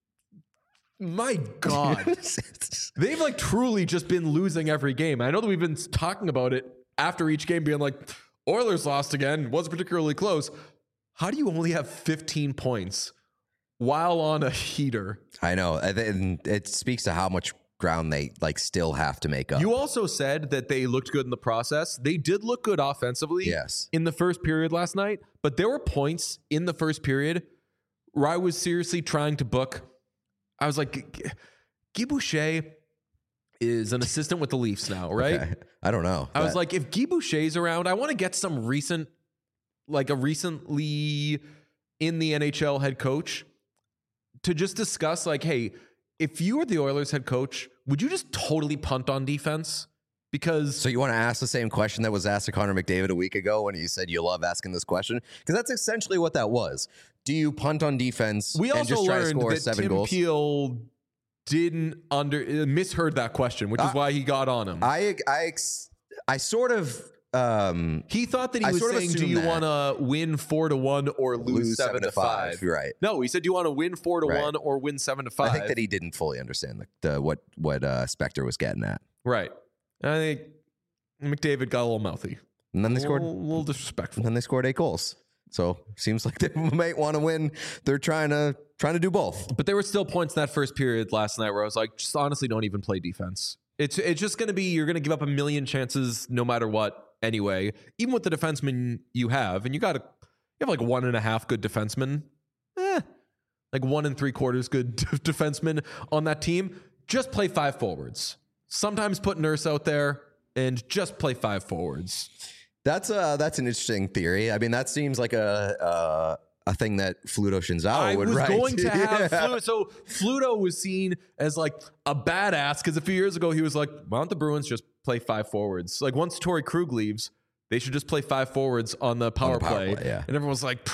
My God. They've like truly just been losing every game. I know that we've been talking about it after each game being like, Oilers lost again. Wasn't particularly close. How do you only have 15 points while on a heater? I know. And it speaks to how much ground they like still have to make up. You also said that they looked good in the process. They did look good offensively in the first period last night, but there were points in the first period where I was seriously trying to book. I was like, Guy Boucher is an assistant with the Leafs now, right? Okay. I don't know. I was like, if Guy Boucher's around, I want to get some recently in the NHL head coach to just discuss like, hey, if you were the Oilers head coach, would you just totally punt on defense? Because So you want to ask the same question that was asked to Connor McDavid a week ago when he said you love asking this question? Because that's essentially what that was. Do you punt on defense we and also just try to learned score that 7 Tim goals? Peel didn't misheard that question, which is why he got on him. I sort of He thought that he I was sort of saying, "Do assumed you that. want to win 4-1 or lose 7-5?" You're right. No, he said, "Do you want to win 4-1 Right. or win 7-5?" I think that he didn't fully understand what Spector was getting at. Right. And I think McDavid got a little mouthy, And then they a scored. little disrespectful. And then they scored 8 goals. So seems like they might want to win. They're trying to do both. But there were still points in that first period last night where I was like, just honestly, don't even play defense. It's just going to be, you're going to give up a million chances no matter what anyway, even with the defensemen you have. And you have like 1.5 good defensemen, like 1 3/4 good defensemen on that team. Just play 5 forwards. Sometimes put Nurse out there and just play 5 forwards. That's an interesting theory. I mean, that seems like a thing that Fluto Shinzawa would write. I was going to have Yeah. Fluto. So Fluto was seen as like a badass because a few years ago he was like, why don't the Bruins just play 5 forwards? Like once Torrey Krug leaves, they should just play 5 forwards on the power play. Yeah. And everyone's like,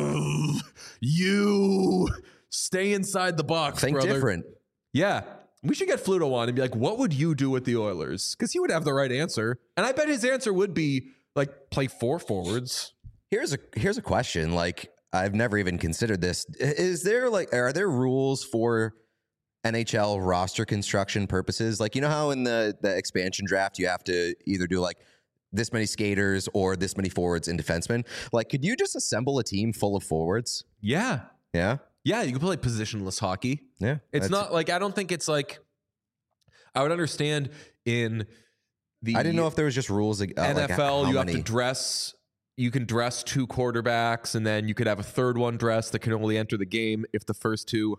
you stay inside the box, Think brother. different. Yeah. We should get Fluto on and be like, what would you do with the Oilers? Because he would have the right answer. And I bet his answer would be like, play 4 forwards. Here's a question. Like, I've never even considered this. Are there rules for NHL roster construction purposes? Like, you know how in the expansion draft you have to either do like this many skaters or this many forwards and defensemen? Like, could you just assemble a team full of forwards? Yeah. Yeah. Yeah, you can play positionless hockey. Yeah. It's not like, I don't think it's like, I would understand in the I didn't know if there was just rules. NFL, like how you many- have to dress, you can dress 2 quarterbacks and then you could have a third one dressed that can only enter the game if the first 2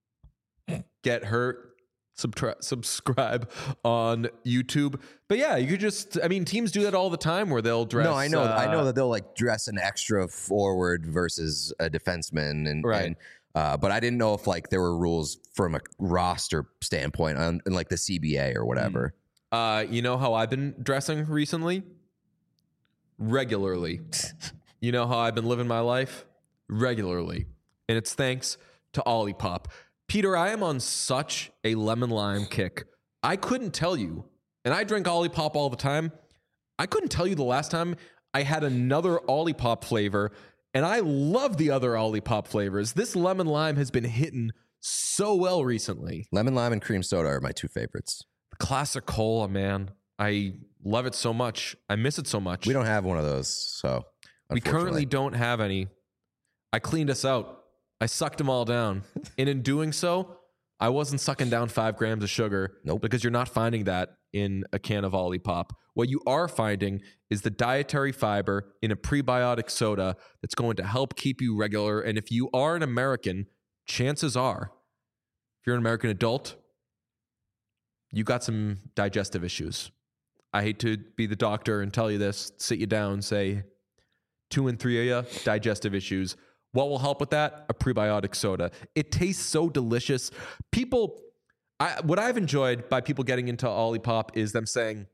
get hurt. Subscribe on YouTube. But yeah, you could just, I mean, teams do that all the time where they'll dress. No, I know that they'll like dress an extra forward versus a defenseman, and Right. And, but I didn't know if like there were rules from a roster standpoint on in like the CBA or whatever. You know how I've been dressing recently? Regularly. You know how I've been living my life? Regularly. And it's thanks to Olipop. Peter, I am on such a lemon lime kick. I couldn't tell you, and I drink Olipop all the time. I couldn't tell you the last time I had another Olipop flavor, and I love the other Olipop flavors. This lemon lime has been hitting so well recently. Lemon lime and cream soda are my 2 favorites. Classic cola, man. I love it so much. I miss it so much. We don't have one of those, so We currently unfortunately. don't have any. I cleaned us out. I sucked them all down. And in doing so, I wasn't sucking down 5 grams of sugar. Nope. Because you're not finding that in a can of Olipop. What you are finding is the dietary fiber in a prebiotic soda that's going to help keep you regular. And if you are an American, chances are, if you're an American adult, you got some digestive issues. I hate to be the doctor and tell you this, sit you down, say 2 and 3 of you, digestive issues. What will help with that? A prebiotic soda. It tastes so delicious. What I've enjoyed by people getting into Olipop is them saying,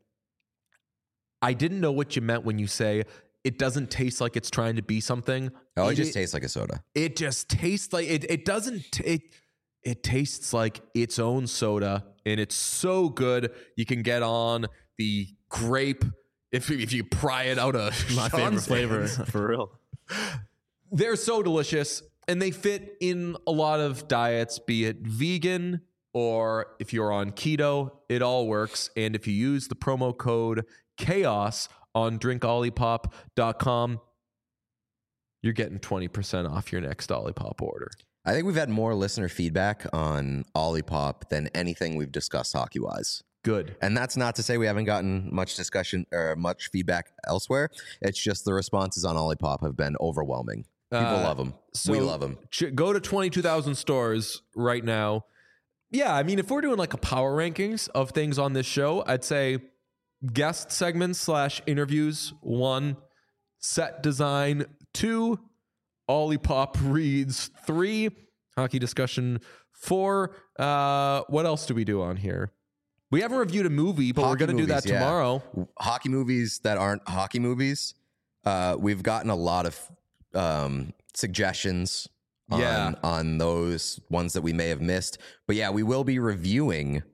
I didn't know what you meant when you say it doesn't taste like it's trying to be something. Oh, it just tastes like a soda. It just tastes like it doesn't. It tastes like its own soda, and it's so good. You can get on the grape if you pry it out of My favorite Sean's flavor, hands. for real. They're so delicious, and they fit in a lot of diets, be it vegan or if you're on keto, it all works. And if you use the promo code CHAOS on drinkolipop.com, you're getting 20% off your next Olipop order. I think we've had more listener feedback on Olipop than anything we've discussed hockey-wise. Good. And that's not to say we haven't gotten much discussion or much feedback elsewhere. It's just the responses on Olipop have been overwhelming. People love them. We love them. Go to 22,000 stores right now. Yeah, I mean, if we're doing like a power rankings of things on this show, I'd say guest segments / interviews, 1, set design, 2, Olipop reads, 3, Hockey discussion 4. What else do we do on here? We haven't reviewed a movie, but we're going to do that tomorrow. Hockey movies that aren't hockey movies. We've gotten a lot of suggestions on those ones that we may have missed. But yeah, we will be reviewing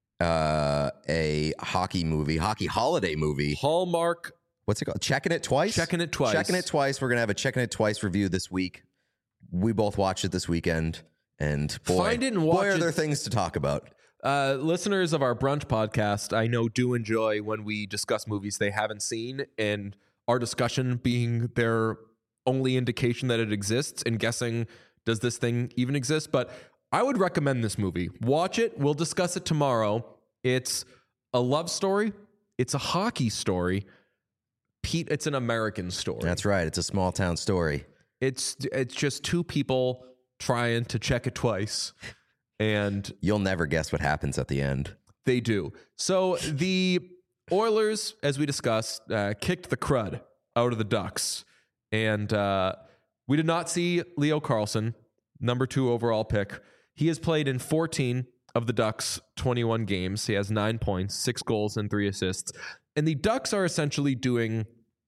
a hockey holiday movie. Hallmark. What's it called? Checking It Twice? Checking It Twice. Checking It Twice. We're going to have a Checking It Twice review this week. We both watched it this weekend. And boy, Find it and watch boy, are it. there things to talk about. Listeners of our brunch podcast, I know, do enjoy when we discuss movies they haven't seen, and our discussion being their only indication that it exists and guessing, does this thing even exist? But I would recommend this movie. Watch it. We'll discuss it tomorrow. It's a love story. It's a hockey story. Pete, it's an American story. That's right. It's a small town story. It's just two people trying to check it twice. And you'll never guess what happens at the end. They do. So the Oilers, as we discussed, kicked the crud out of the Ducks. And we did not see Leo Carlsson, number 2 overall pick. He has played in 14 of the Ducks' 21 games. He has 9 points, 6 goals, and 3 assists. And the Ducks are essentially doing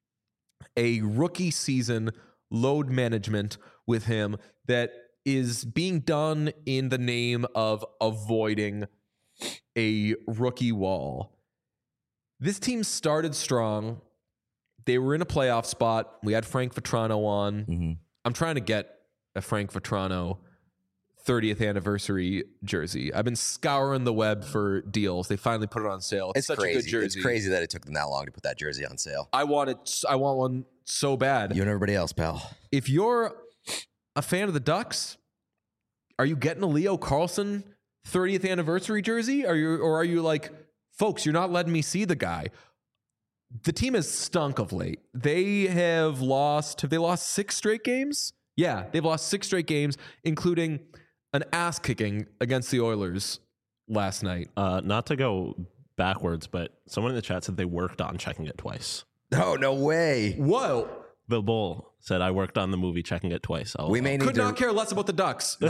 a rookie season load management with him that is being done in the name of avoiding a rookie wall. This team started strong. They were in a playoff spot. We had Frank Vatrano on. Mm-hmm. I'm trying to get a Frank Vatrano 30th anniversary jersey. I've been scouring the web for deals. They finally put it on sale. It's such crazy. a good jersey. It's crazy that it took them that long to put that jersey on sale. I want one so bad. You and everybody else, pal. If you're a fan of the Ducks, are you getting a Leo Carlsson 30th anniversary jersey? Are you like, folks, you're not letting me see the guy? The team has stunk of late. Have they lost 6 straight games? Yeah, they've lost 6 straight games, including an ass kicking against the Oilers last night. Not to go backwards, but someone in the chat said they worked on Checking It Twice. Oh, no way. Whoa. Bill Bull said, I worked on the movie Checking It Twice. We may need could not care less about the Ducks.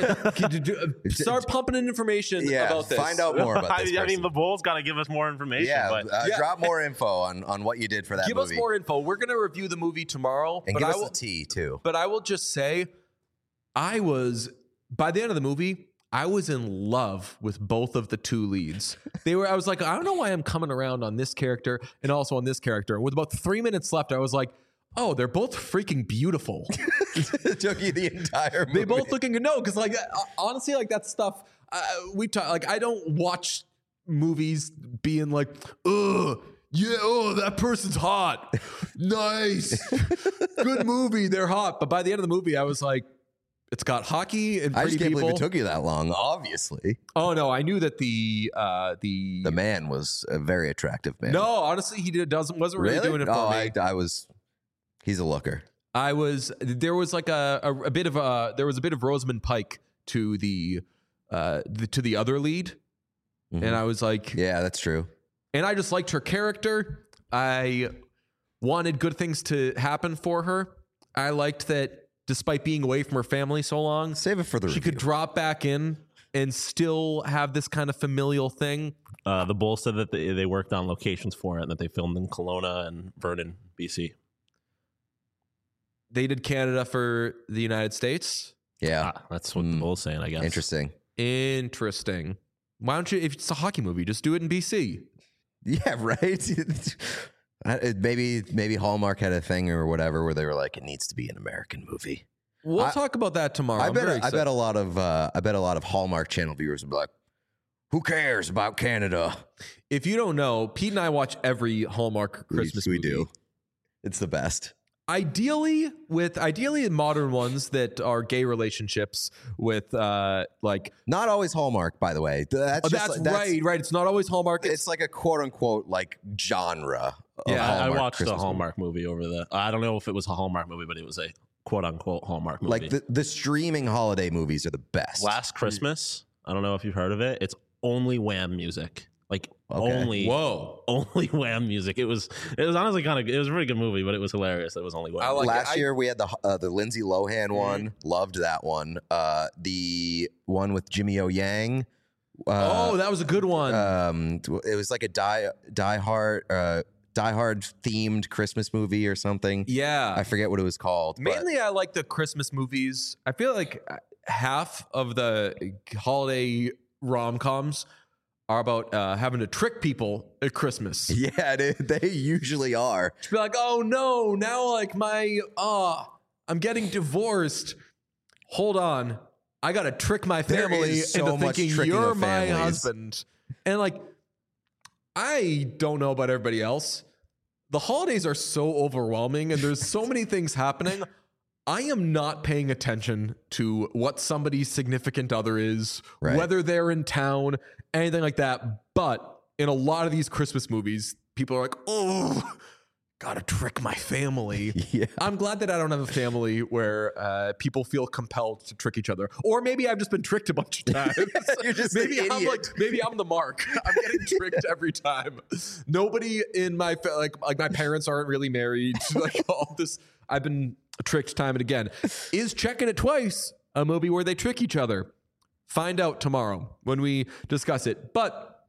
Start pumping in information about this. Find out more about this. I mean, the Bull's got to give us more information. Yeah, but drop more info on what you did for that give movie. Give us more info. We're going to review the movie tomorrow. And give us the tea, too. But I will just say, by the end of the movie, I was in love with both of the 2 leads. I was like, I don't know why I'm coming around on this character and also on this character. And with about 3 minutes left, I was like, oh, they're both freaking beautiful. It took you the entire movie. They both looking good. No, because honestly, that stuff we talk. I don't watch movies being like, ugh, yeah, oh, that person's hot. Nice, good movie. They're hot. But by the end of the movie, I was like, it's got hockey and pretty I just can't people. believe it took you that long. Obviously. Oh no, I knew that the man was a very attractive man. No, honestly, wasn't really doing it for me. I was. He's a looker. There was like a bit of Rosamund Pike to the other lead, Mm-hmm. and I was like, yeah, that's true. And I just liked her character. I wanted good things to happen for her. I liked that despite being away from her family so long, save it for the she review. could drop back in and still have this kind of familial thing. The Bull said that they worked on locations for it and that they filmed in Kelowna and Vernon, BC. They did Canada for the United States. Yeah. That's what the Bull's saying, I guess. Interesting. Why don't you, if it's a hockey movie, just do it in BC? Yeah, right? Maybe Hallmark had a thing or whatever where they were like, it needs to be an American movie. We'll talk about that tomorrow. I bet a lot of Hallmark Channel viewers would be like, who cares about Canada? If you don't know, Pete and I watch every Hallmark Christmas movie. We do. It's the best. Ideally modern ones that are gay relationships with like not always Hallmark, by the way. That's right. It's not always Hallmark. It's like a quote unquote like genre. Yeah, I watched Christmas a Hallmark movie over the. I don't know if it was a Hallmark movie, but it was a quote unquote Hallmark movie. Like the streaming holiday movies are the best. Last Christmas, I don't know if you've heard of it. It's only Wham music. like Okay. only Wham music. It was honestly it was a really good movie, but it was hilarious. It was only Wham. Last year we had the Lindsay Lohan one. Loved that one. The one with Jimmy O Yang. That was a good one. It was like a Die Hard themed Christmas movie or something. Yeah, I forget what it was called. Mainly, I like the Christmas movies. I feel like half of the holiday rom-coms are about having to trick people at Christmas. Yeah, they usually are. To be like, oh no, now like I'm getting divorced. Hold on, I gotta trick my family into thinking you're my husband. And like, I don't know about everybody else. The holidays are so overwhelming and there's so many things happening. I am not paying attention to what somebody's significant other is, right, whether they're in town, anything like that. But in a lot of these Christmas movies, people are like, oh, gotta trick my family. Yeah. I'm glad that I don't have a family where people feel compelled to trick each other. Or maybe I've just been tricked a bunch of times. You're just maybe an idiot. maybe I'm the mark. I'm getting tricked every time. Nobody in my like my parents aren't really married. Like all this, I've been tricked time and again. Is Checking It Twice a movie where they trick each other? Find out tomorrow when we discuss it. But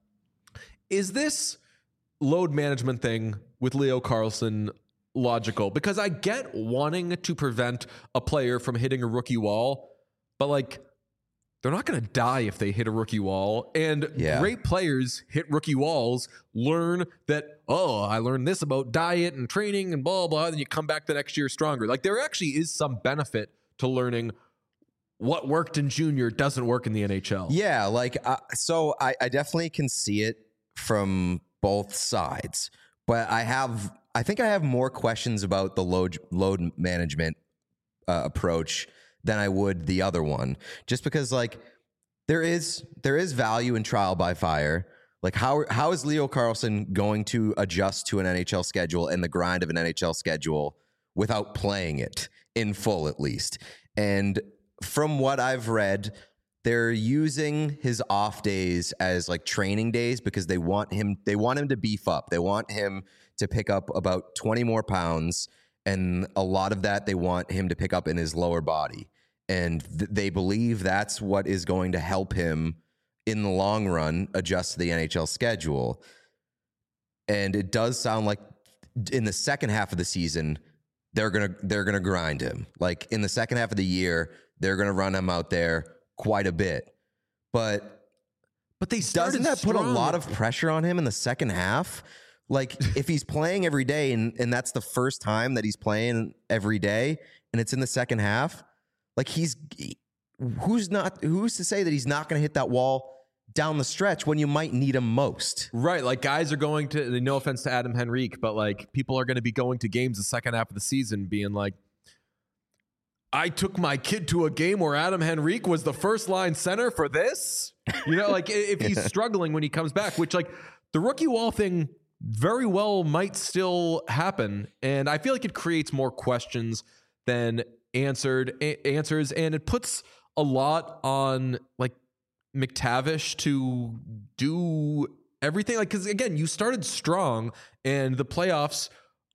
is this load management thing with Leo Carlsson logical? Because I get wanting to prevent a player from hitting a rookie wall, but like, they're not going to die if they hit a rookie wall. And great players hit rookie walls, learn that, oh, I learned this about diet and training and blah, blah, and you come back the next year stronger. Like, there actually is some benefit to learning what worked in junior doesn't work in the NHL. Yeah, like, so I definitely can see it from both sides. But I think I have more questions about the load management approach than I would the other one, just because like there is value in trial by fire. Like how is Leo Carlsson going to adjust to an NHL schedule and the grind of an NHL schedule without playing it in full at least? And from what I've read, they're using his off days as like training days because they want him to beef up. They want him to pick up about 20 more pounds, and a lot of that they want him to pick up in his lower body. And they believe that's what is going to help him in the long run adjust to the NHL schedule. And it does sound like in the second half of the season, they're gonna grind him. Like in the second half of the year, they're gonna run him out there quite a bit. But they doesn't that strong. put a lot of pressure on him in the second half? Like if he's playing every day and that's the first time that he's playing every day and it's in the second half, like who's to say that he's not going to hit that wall down the stretch when you might need him most? Right. Like guys are going to, no offense to Adam Henrique, but like people are going to be going to games the second half of the season being like, I took my kid to a game where Adam Henrique was the first line center for this. You know, like if he's struggling when he comes back, which like the rookie wall thing very well might still happen. And I feel like it creates more questions than answers, and it puts a lot on like McTavish to do everything. Like, because again, you started strong, and the playoffs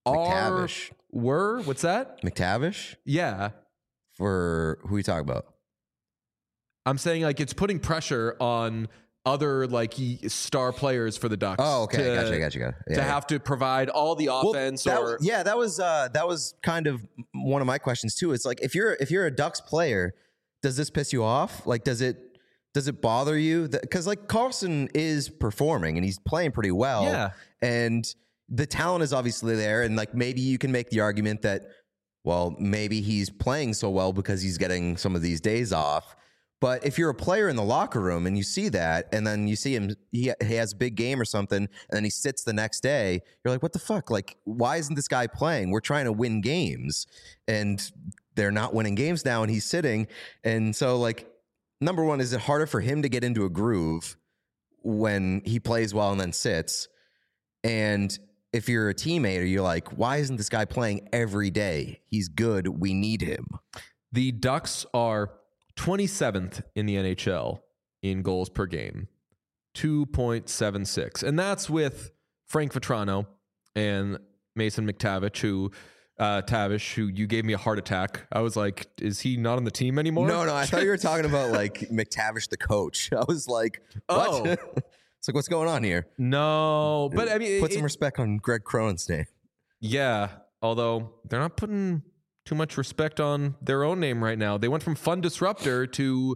were what's that? McTavish? Yeah. For who are you talking about? I'm saying like it's putting pressure on other like star players for the Ducks. Oh, okay, gotcha. Yeah, to have to provide all the offense. That was kind of one of my questions too. It's like if you're a Ducks player, does this piss you off? Like, does it bother you? Because like Carlsson is performing and he's playing pretty well. Yeah, and the talent is obviously there, and like maybe you can make the argument that, well, maybe he's playing so well because he's getting some of these days off. But if you're a player in the locker room and you see that, and then you see him, he has a big game or something, and then he sits the next day, you're like, what the fuck? Like, why isn't this guy playing? We're trying to win games, and they're not winning games now, and he's sitting. And so, like, number one, is it harder for him to get into a groove when he plays well and then sits? And if you're a teammate, you're like, why isn't this guy playing every day? He's good. We need him. The Ducks are 27th in the NHL in goals per game. 2.76. And that's with Frank Vetrano and Mason Tavish, who you gave me a heart attack. I was like, is he not on the team anymore? No, I thought you were talking about like McTavish, the coach. I was like, what? Oh. It's like, what's going on here? No, but I mean, Put some respect on Greg Cronin's name. Yeah, although they're not putting too much respect on their own name right now. They went from fun disruptor to,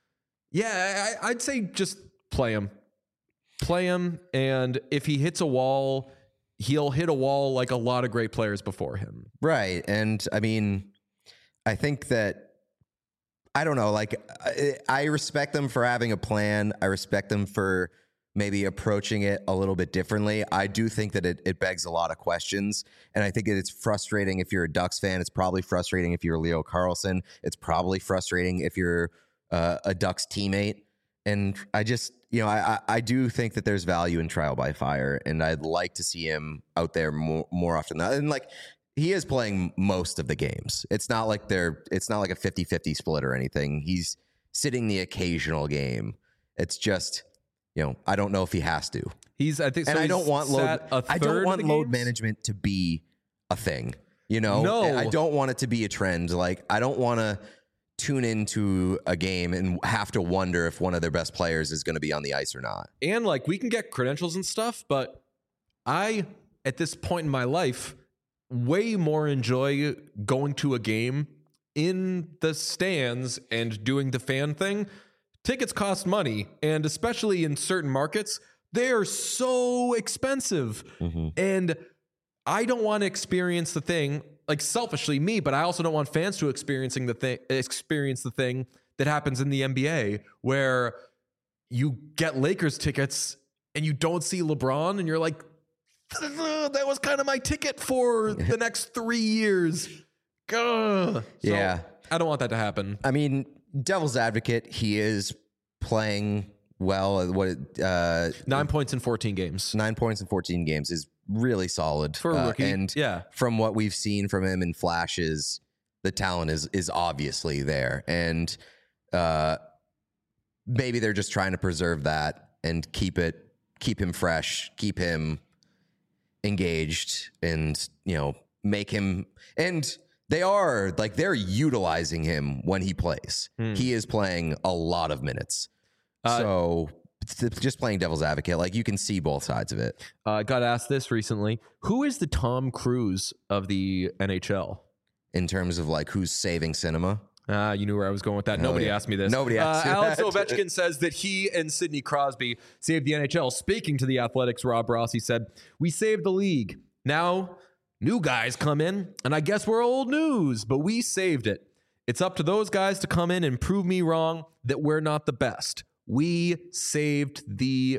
I'd say just play him. Play him, and if he hits a wall, he'll hit a wall like a lot of great players before him. Right. And I mean, I think that, I don't know, like I respect them for having a plan. I respect them for maybe approaching it a little bit differently. I do think that it begs a lot of questions. And I think that it's frustrating if you're a Ducks fan. It's probably frustrating if you're Leo Carlsson. It's probably frustrating if you're a Ducks teammate. And I just, I do think that there's value in trial by fire, and I'd like to see him out there more often. And like, he is playing most of the games. It's not like it's not like a 50-50 split or anything. He's sitting the occasional game. It's just, I don't know if he has to. I don't want load management to be a thing. No. I don't want it to be a trend. Like, I don't want to tune into a game and have to wonder if one of their best players is going to be on the ice or not. And like, we can get credentials and stuff, but I, at this point in my life, way more enjoy going to a game in the stands and doing the fan thing. Tickets cost money, and especially in certain markets, they are so expensive. Mm-hmm. And I don't want to experience the thing, like selfishly me, but I also don't want fans to experience the thing that happens in the NBA where you get Lakers tickets and you don't see LeBron and you're like, that was kind of my ticket for the next 3 years. So, yeah. I don't want that to happen. I mean, devil's advocate, he is playing well. 9 points in 14 games. 9 points in 14 games is really solid for a rookie. And from what we've seen from him in flashes, the talent is obviously there. And maybe they're just trying to preserve that and keep him fresh, keep him engaged, and make him. And they're utilizing him when he plays. He is playing a lot of minutes. So just playing devil's advocate, like, you can see both sides of it. I got asked this recently. Who is the Tom Cruise of the NHL? In terms of like, who's saving cinema? You knew where I was going with that. Nobody asked me this. Nobody asked Alex Ovechkin says that he and Sidney Crosby saved the NHL. Speaking to the Athletics, Rob Rossi said, "We saved the league. Now new guys come in, and I guess we're old news, but we saved it. It's up to those guys to come in and prove me wrong that we're not the best. We saved the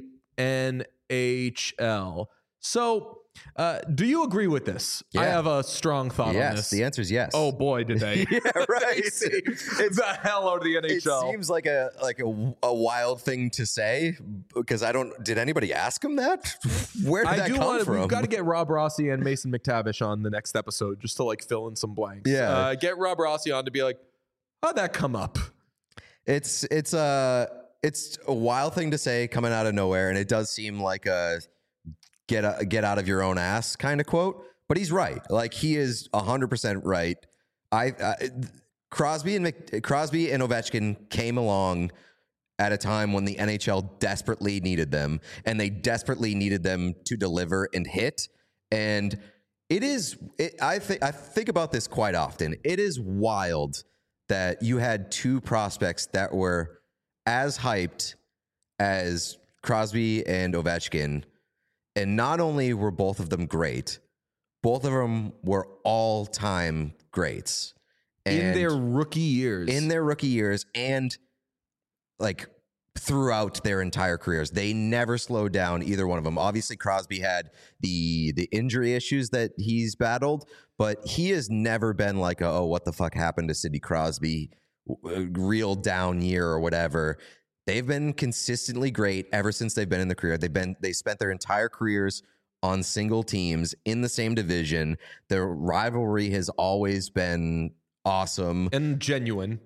NHL." So, do you agree with this? Yeah. I have a strong thought on this. Yes, the answer is yes. Oh boy, did they! Yeah, right. They saved the hell out of the NHL. It seems like a wild thing to say, because did anybody ask him that? Where did that come from? We've got to get Rob Rossi and Mason McTavish on the next episode just to like fill in some blanks. Yeah, get Rob Rossi on to be like, how'd that come up? It's a wild thing to say coming out of nowhere, and it does seem like a get out of your own ass kind of quote. But he's right. Like, he is 100% right. Crosby and Ovechkin came along at a time when the NHL desperately needed them, and they desperately needed them to deliver and hit. And I think about this quite often. It is wild that you had two prospects that were as hyped as Crosby and Ovechkin, and not only were both of them great, both of them were all-time greats. In their rookie years. And like throughout their entire careers. They never slowed down, either one of them. Obviously, Crosby had the injury issues that he's battled, but he has never been like, oh, what the fuck happened to Sidney Crosby? Real down year or whatever. They've been consistently great ever since they've been in the career. They spent their entire careers on single teams in the same division. Their rivalry has always been awesome and genuine.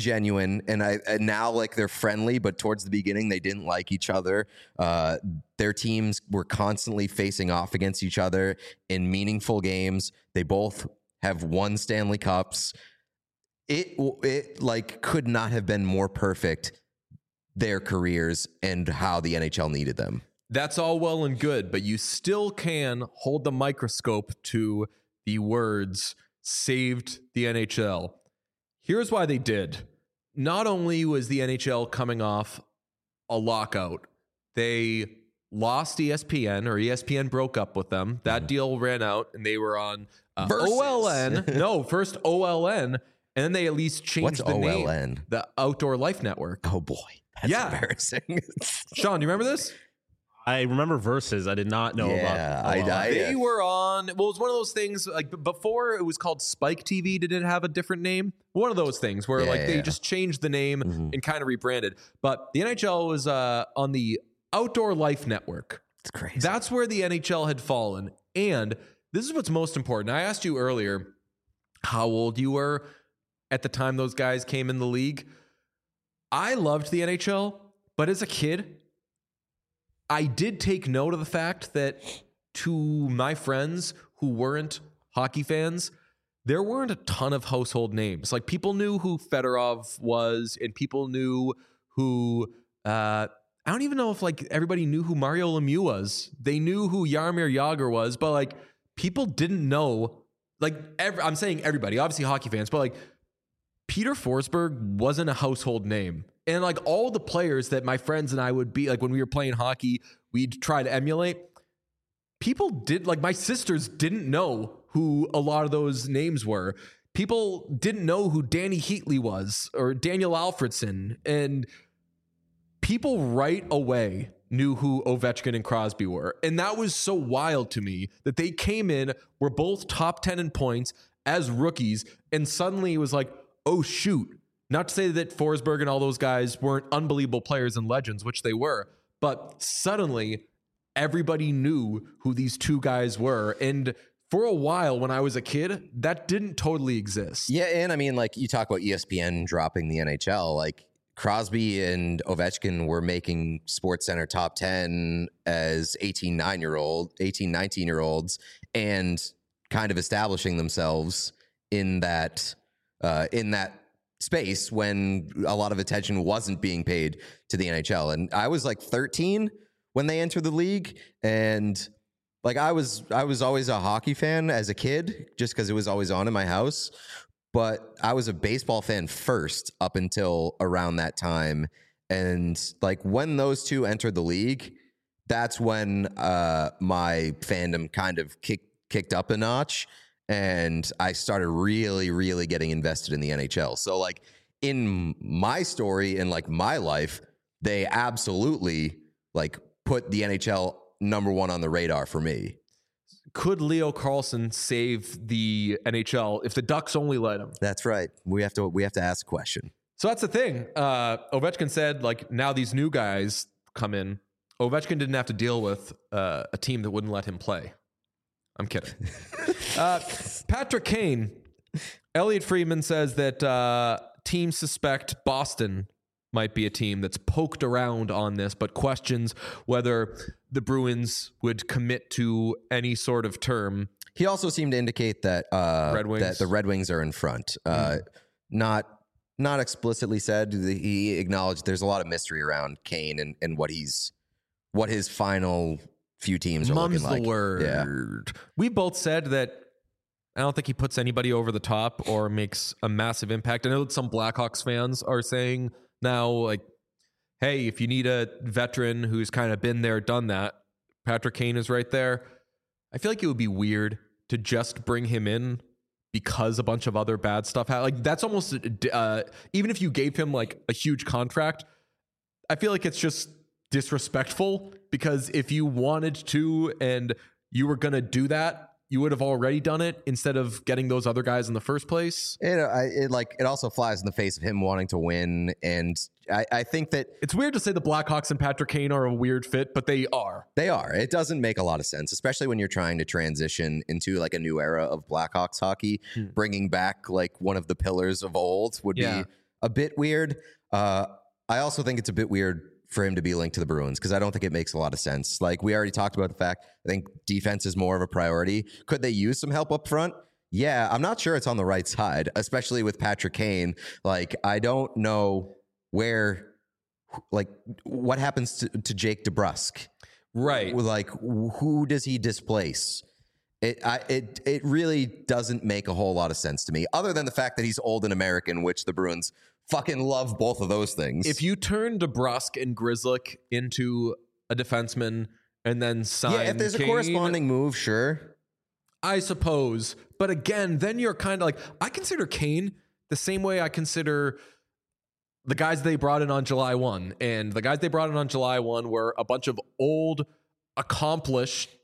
and now like they're friendly, but towards the beginning they didn't like each other. Their teams were constantly facing off against each other in meaningful games. They both have won Stanley Cups. It like could not have been more perfect, their careers and how the NHL needed them. That's all well and good, but you still can hold the microscope to the words saved the NHL. Here's why they did. Not only was the NHL coming off a lockout, they lost ESPN, or ESPN broke up with them. That deal ran out and they were on OLN. No, first OLN, and then they at least changed the OLN? name. The Outdoor Life Network. Oh boy. That's embarrassing. Sean, do you remember this? I remember Versus. I did not know about. They were on. Well, it was one of those things. Like before, it was called Spike TV. Did it have a different name? One of those things where they just changed the name and kind of rebranded. But the NHL was on the Outdoor Life Network. It's crazy. That's where the NHL had fallen. And this is what's most important. I asked you earlier how old you were at the time those guys came in the league. I loved the NHL, but as a kid, I did take note of the fact that to my friends who weren't hockey fans, there weren't a ton of household names. Like people knew who Fedorov was, and people knew who I don't even know if like everybody knew who Mario Lemieux was. They knew who Jaromir Jagr was, but like people didn't know. Like I'm saying everybody, obviously hockey fans, but like Peter Forsberg wasn't a household name. And like all the players that my friends and I would be like when we were playing hockey, we'd try to emulate. People did, like my sisters didn't know who a lot of those names were. People didn't know who Danny Heatley was or Daniel Alfredson. And people right away knew who Ovechkin and Crosby were. And that was so wild to me that they came in, were both top 10 in points as rookies. And suddenly it was like, oh shoot. Not to say that Forsberg and all those guys weren't unbelievable players and legends, which they were, but suddenly everybody knew who these two guys were. And for a while when I was a kid, that didn't totally exist. Yeah, and I mean, like you talk about ESPN dropping the NHL, like Crosby and Ovechkin were making SportsCenter top 10 as 18, 19-year-olds and kind of establishing themselves in that space when a lot of attention wasn't being paid to the NHL. And I was like 13 when they entered the league, and like I was always a hockey fan as a kid just because it was always on in my house, but I was a baseball fan first up until around that time. And like when those two entered the league, that's when my fandom kind of kicked up a notch. And I started really, really getting invested in the NHL. So like in my story and like my life, they absolutely like put the NHL number one on the radar for me. Could Leo Carlsson save the NHL if the Ducks only let him? That's right. We have to ask a question. So that's the thing. Ovechkin said like now these new guys come in. Ovechkin didn't have to deal with a team that wouldn't let him play. I'm kidding. Patrick Kane, Elliot Friedman says that teams suspect Boston might be a team that's poked around on this, but questions whether the Bruins would commit to any sort of term. He also seemed to indicate that that the Red Wings are in front. Not explicitly said. He acknowledged there's a lot of mystery around Kane and what his final few teams are looking like. The word. Yeah. We both said that I don't think he puts anybody over the top or makes a massive impact. I know that some Blackhawks fans are saying now, like, hey, if you need a veteran who's kind of been there, done that, Patrick Kane is right there. I feel like it would be weird to just bring him in because a bunch of other bad stuff happened. Like, that's almost, even if you gave him like a huge contract, I feel like it's just disrespectful, because if you wanted to and you were going to do that, you would have already done it instead of getting those other guys in the first place. It also flies in the face of him wanting to win, and I think that It's weird to say the Blackhawks and Patrick Kane are a weird fit, but they are. they are. It doesn't make a lot of sense, especially when you're trying to transition into like a new era of Blackhawks hockey. Bringing back like one of the pillars of old would Yeah. be a bit weird. I also think it's a bit weird for him to be linked to the Bruins because I don't think it makes a lot of sense. Like we already talked about the fact, I think defense is more of a priority. Could they use some help up front? Yeah, I'm not sure it's on the right side, especially with Patrick Kane. Like I don't know what happens to Jake DeBrusk. Right. Like who does he displace? It really doesn't make a whole lot of sense to me, other than the fact that he's old and American, which the Bruins fucking love both of those things. If you turn DeBrusk and Grzelcyk into a defenseman and then sign if there's Kane, a corresponding move, sure. I suppose. But again, then you're kind of like, I consider Kane the same way I consider the guys they brought in on July 1. And the guys they brought in on July 1 were a bunch of old, accomplished,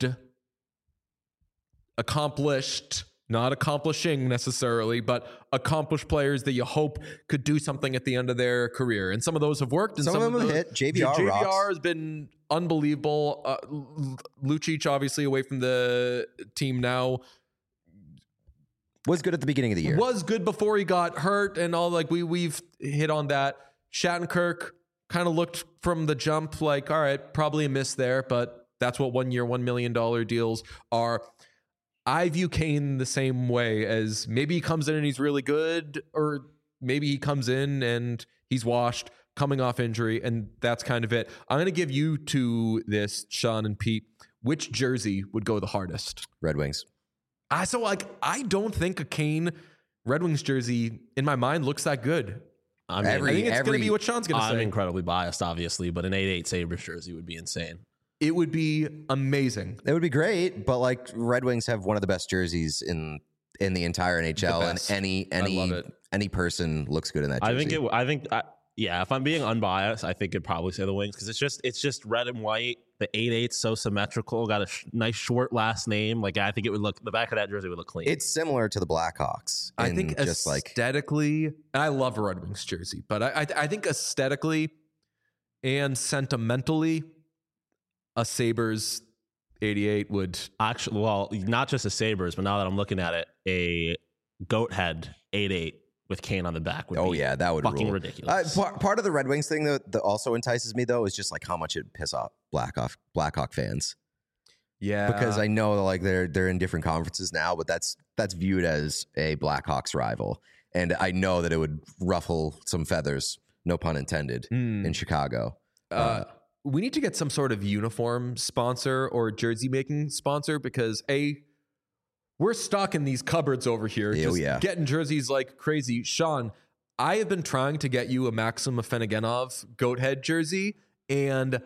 not accomplishing necessarily, but accomplished players that you hope could do something at the end of their career. And some of those have worked. And Some of them have hit. JVR rocks. has been unbelievable. Lucic, obviously, away from the team now. Was good at the beginning of the year. Was good before he got hurt and all. Like we've hit on that. Shattenkirk kind of looked from the jump like, all right, probably a miss there, but that's what 1 year, $1 million deals are. I view Kane the same way as maybe he comes in and he's really good, or maybe he comes in and he's washed, coming off injury, and that's kind of it. I'm going to give you to this, Sean and Pete. Which jersey would go the hardest? Red Wings. I don't think a Kane Red Wings jersey in my mind looks that good. I mean, I think it's going to be what Sean's going to I'm say. incredibly biased, obviously, but an 8-8 Sabres jersey would be insane. It would be amazing. It would be great, but like Red Wings have one of the best jerseys in the entire NHL, best. and I love it. any person looks good in that jersey. If I'm being unbiased, I think I'd probably say the Wings because it's just red and white. The 8-8's so symmetrical. Got a nice short last name. Like I think it would look. The back of that jersey would look clean. It's similar to the Blackhawks. I think just aesthetically, and I love a Red Wings jersey, but I think aesthetically and sentimentally, a Sabres 88 would actually, well, not just a Sabres, but now that I'm looking at it, a goat head 8-8 with Kane on the back would be that would fucking rule. ridiculous. Part of the Red Wings thing that also entices me though is just like how much it piss off Blackhawk fans. Yeah, Because I know that like they're in different conferences now, but that's viewed as a Blackhawks rival, and I know that it would ruffle some feathers, no pun intended, in Chicago. we need to get some sort of uniform sponsor or jersey making sponsor because we're stocking these cupboards over here, getting jerseys like crazy. Sean, I have been trying to get you a Maxim Afinogenov goat head jersey, and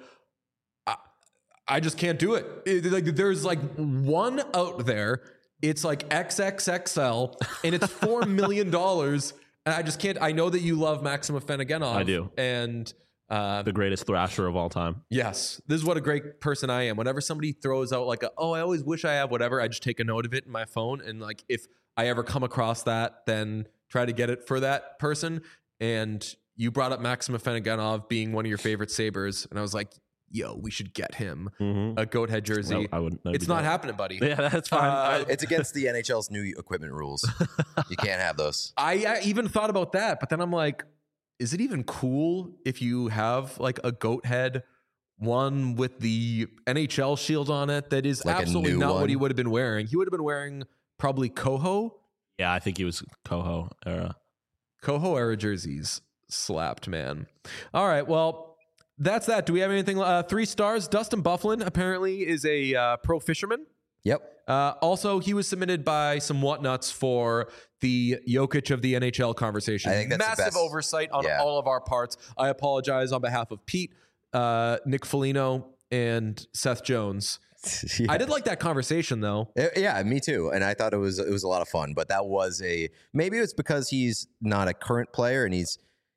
I just can't do it. There's like one out there. It's like XXXL, and it's $4 million. And I just can't. I know that you love Maxim Afinogenov. I do. And the greatest thrasher of all time. yes, this is what a great person I am. Whenever somebody throws out like, I always wish I have whatever, I just take a note of it in my phone. And like, if I ever come across that, then try to get it for that person. And you brought up Maxim Afinogenov being one of your favorite Sabres. And I was like, yo, we should get him a goat head jersey. No, I wouldn't. It's not happening, buddy. Yeah, that's fine. It's against the NHL's new equipment rules. You can't have those. I even thought about that, but then I'm like, is it even cool if you have like a goat head one with the NHL shield on it that is Like a absolutely new not one? what he would have been wearing? He would have been wearing probably Coho Yeah, I think he was Coho era. era jerseys. Slapped, man. All right, well, that's that. Do we have anything? 3 stars. Dustin Byfuglien apparently is a pro fisherman. Yep. Also, he was submitted by some whatnots for the Jokic of the NHL conversation. I think that's the massive best. oversight on Yeah. all of our parts. I apologize on behalf of Pete, Nick Foligno, and Seth Jones. Yeah. I did like that conversation though. Yeah, me too. And I thought it was a lot of fun. But that was maybe it's because he's not a current player and he's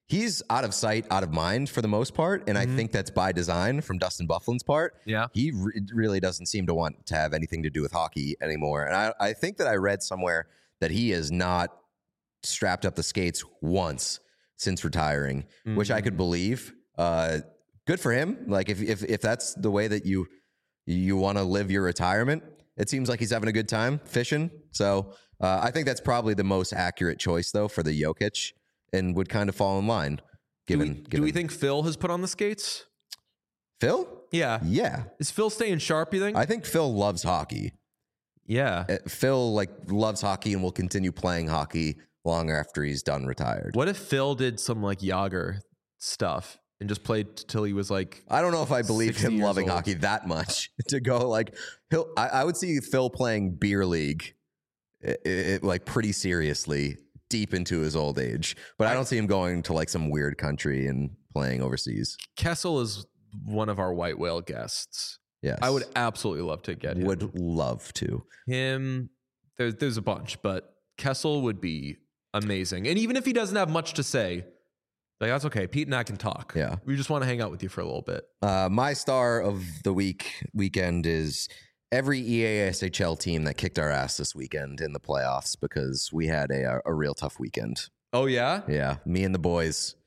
he's out of sight, out of mind for the most part. And I think that's by design from Dustin Bufflin's part. Yeah. He really doesn't seem to want to have anything to do with hockey anymore. And I think that I read somewhere that he has not strapped up the skates once since retiring, which I could believe. Good for him. Like if that's the way that you want to live your retirement, it seems like he's having a good time fishing. So I think that's probably the most accurate choice though for the Jokic, and would kind of fall in line. Do we think Phil has put on the skates? Phil? Yeah. Yeah. Is Phil staying sharp, you think? I think Phil loves hockey. Yeah. Phil loves hockey and will continue playing hockey long after he's done retired. What if Phil did some like Yager stuff and just played till he was like, I don't know if I believe 60 him years loving old. hockey that much to go like I would see Phil playing beer league like pretty seriously deep into his old age, but I don't see him going to like some weird country and playing overseas. Kessel is one of our white whale guests. Yes. I would absolutely love to get him. Would love to. Him, there's a bunch, but Kessel would be amazing. And even if he doesn't have much to say, like that's okay. Pete and I can talk. Yeah. We just want to hang out with you for a little bit. My star of the weekend is every EA SHL team that kicked our ass this weekend in the playoffs, because we had a real tough weekend. Oh yeah? Yeah, me and the boys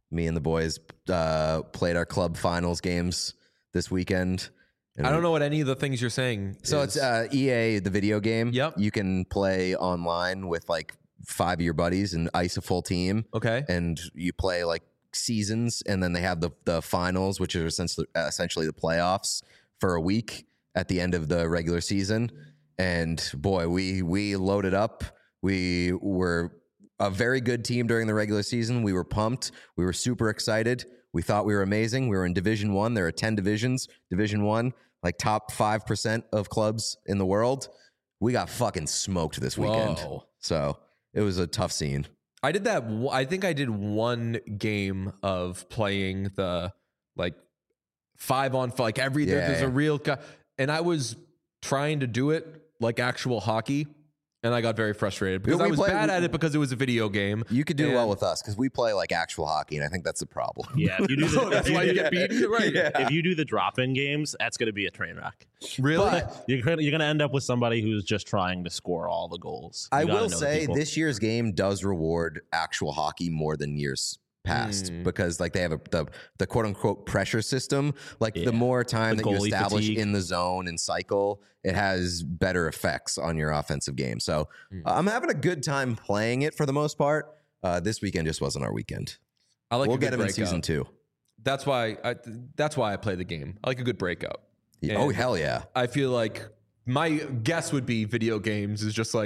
played our club finals games this weekend. And I don't know what any of the things you're saying. So is. it's EA, the video game. Yep. You can play online with like 5 of your buddies and ice a full team. Okay. And you play like seasons, and then they have the finals, which are essentially the playoffs for a week at the end of the regular season. And boy, we loaded up. We were a very good team during the regular season. We were pumped. We were super excited. We thought we were amazing. We were in Division 1. There are 10 divisions. Division 1, like top 5% of clubs in the world. We got fucking smoked this weekend. Whoa. So it was a tough scene. I did that. I think I did one game of playing the like 5-on-5, like every there's a real guy, and I was trying to do it like actual hockey, and I got very frustrated because I was bad at it because it was a video game. You could do well with us because we play like actual hockey, and I think that's the problem. Yeah, if you do the, That's why you get beaten, right? Yeah. if you do the drop-in games, that's going to be a train wreck. Really? But You're gonna end up with somebody who's just trying to score all the goals. I You gotta will know the say people. this year's game does reward actual hockey more than years past, because like they have the quote unquote pressure system. Like the more time The that you goalie establish fatigue. in the zone and cycle, it has better effects on your offensive game. So I'm having a good time playing it for the most part. This weekend just wasn't our weekend. I like We'll a good get him in breakout. season 2. That's why I play the game. I like a good breakout. Oh And hell yeah! I feel like my guess would be video games is just like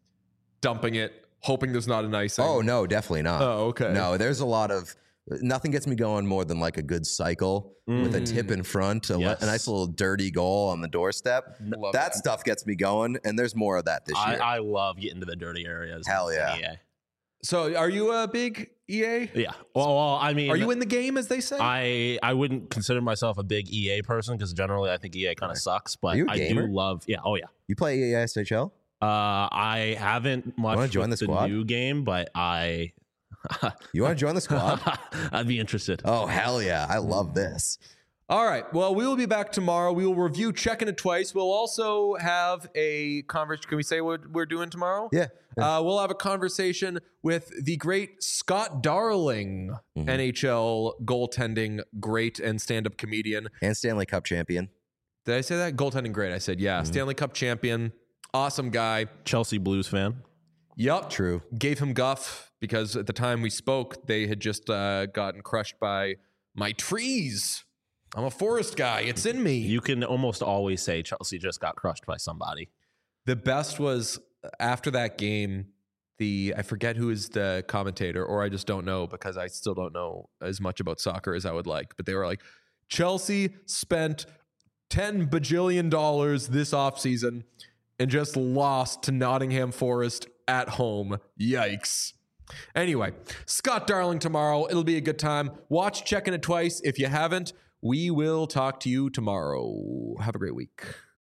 dumping it, hoping there's not an icing. Oh no, definitely not. Oh, okay. No, there's a lot of nothing gets me going more than like a good cycle with a tip in front, a Yes. nice little dirty goal on the doorstep. Love That it. stuff gets me going, and there's more of that this year. I love getting to the dirty areas. Hell in yeah. EA. So are you a big EA? Yeah. Well, I mean, Are you in the game, as they say? I wouldn't consider myself a big EA person because generally I think EA kind of sucks. But Are you a I gamer? do love. Yeah. Oh yeah. You play ESHL? I haven't much wanna join with the squad? new game, but I You want to join the squad? I'd be interested. Oh hell yeah! I love this. All right. Well, we will be back tomorrow. We will review Checking It Twice. We'll also have a conversation. Can we say what we're doing tomorrow? Yeah. We'll have a conversation with the great Scott Darling, NHL goaltending great and stand-up comedian. And Stanley Cup champion. Did I say that? Goaltending great. I said, yeah. Stanley Cup champion. Awesome guy. Chelsea Blues fan. Yup. True. Gave him guff because at the time we spoke, they had just gotten crushed by my trees. I'm a forest guy. It's in me. You can almost always say Chelsea just got crushed by somebody. The best was after that game, I forget who is the commentator, or I just don't know because I still don't know as much about soccer as I would like. But they were like, Chelsea spent $10 bajillion this offseason and just lost to Nottingham Forest at home. Yikes. Anyway, Scott Darling tomorrow. It'll be a good time. Watch Checking It Twice if you haven't. We will talk to you tomorrow. Have a great week.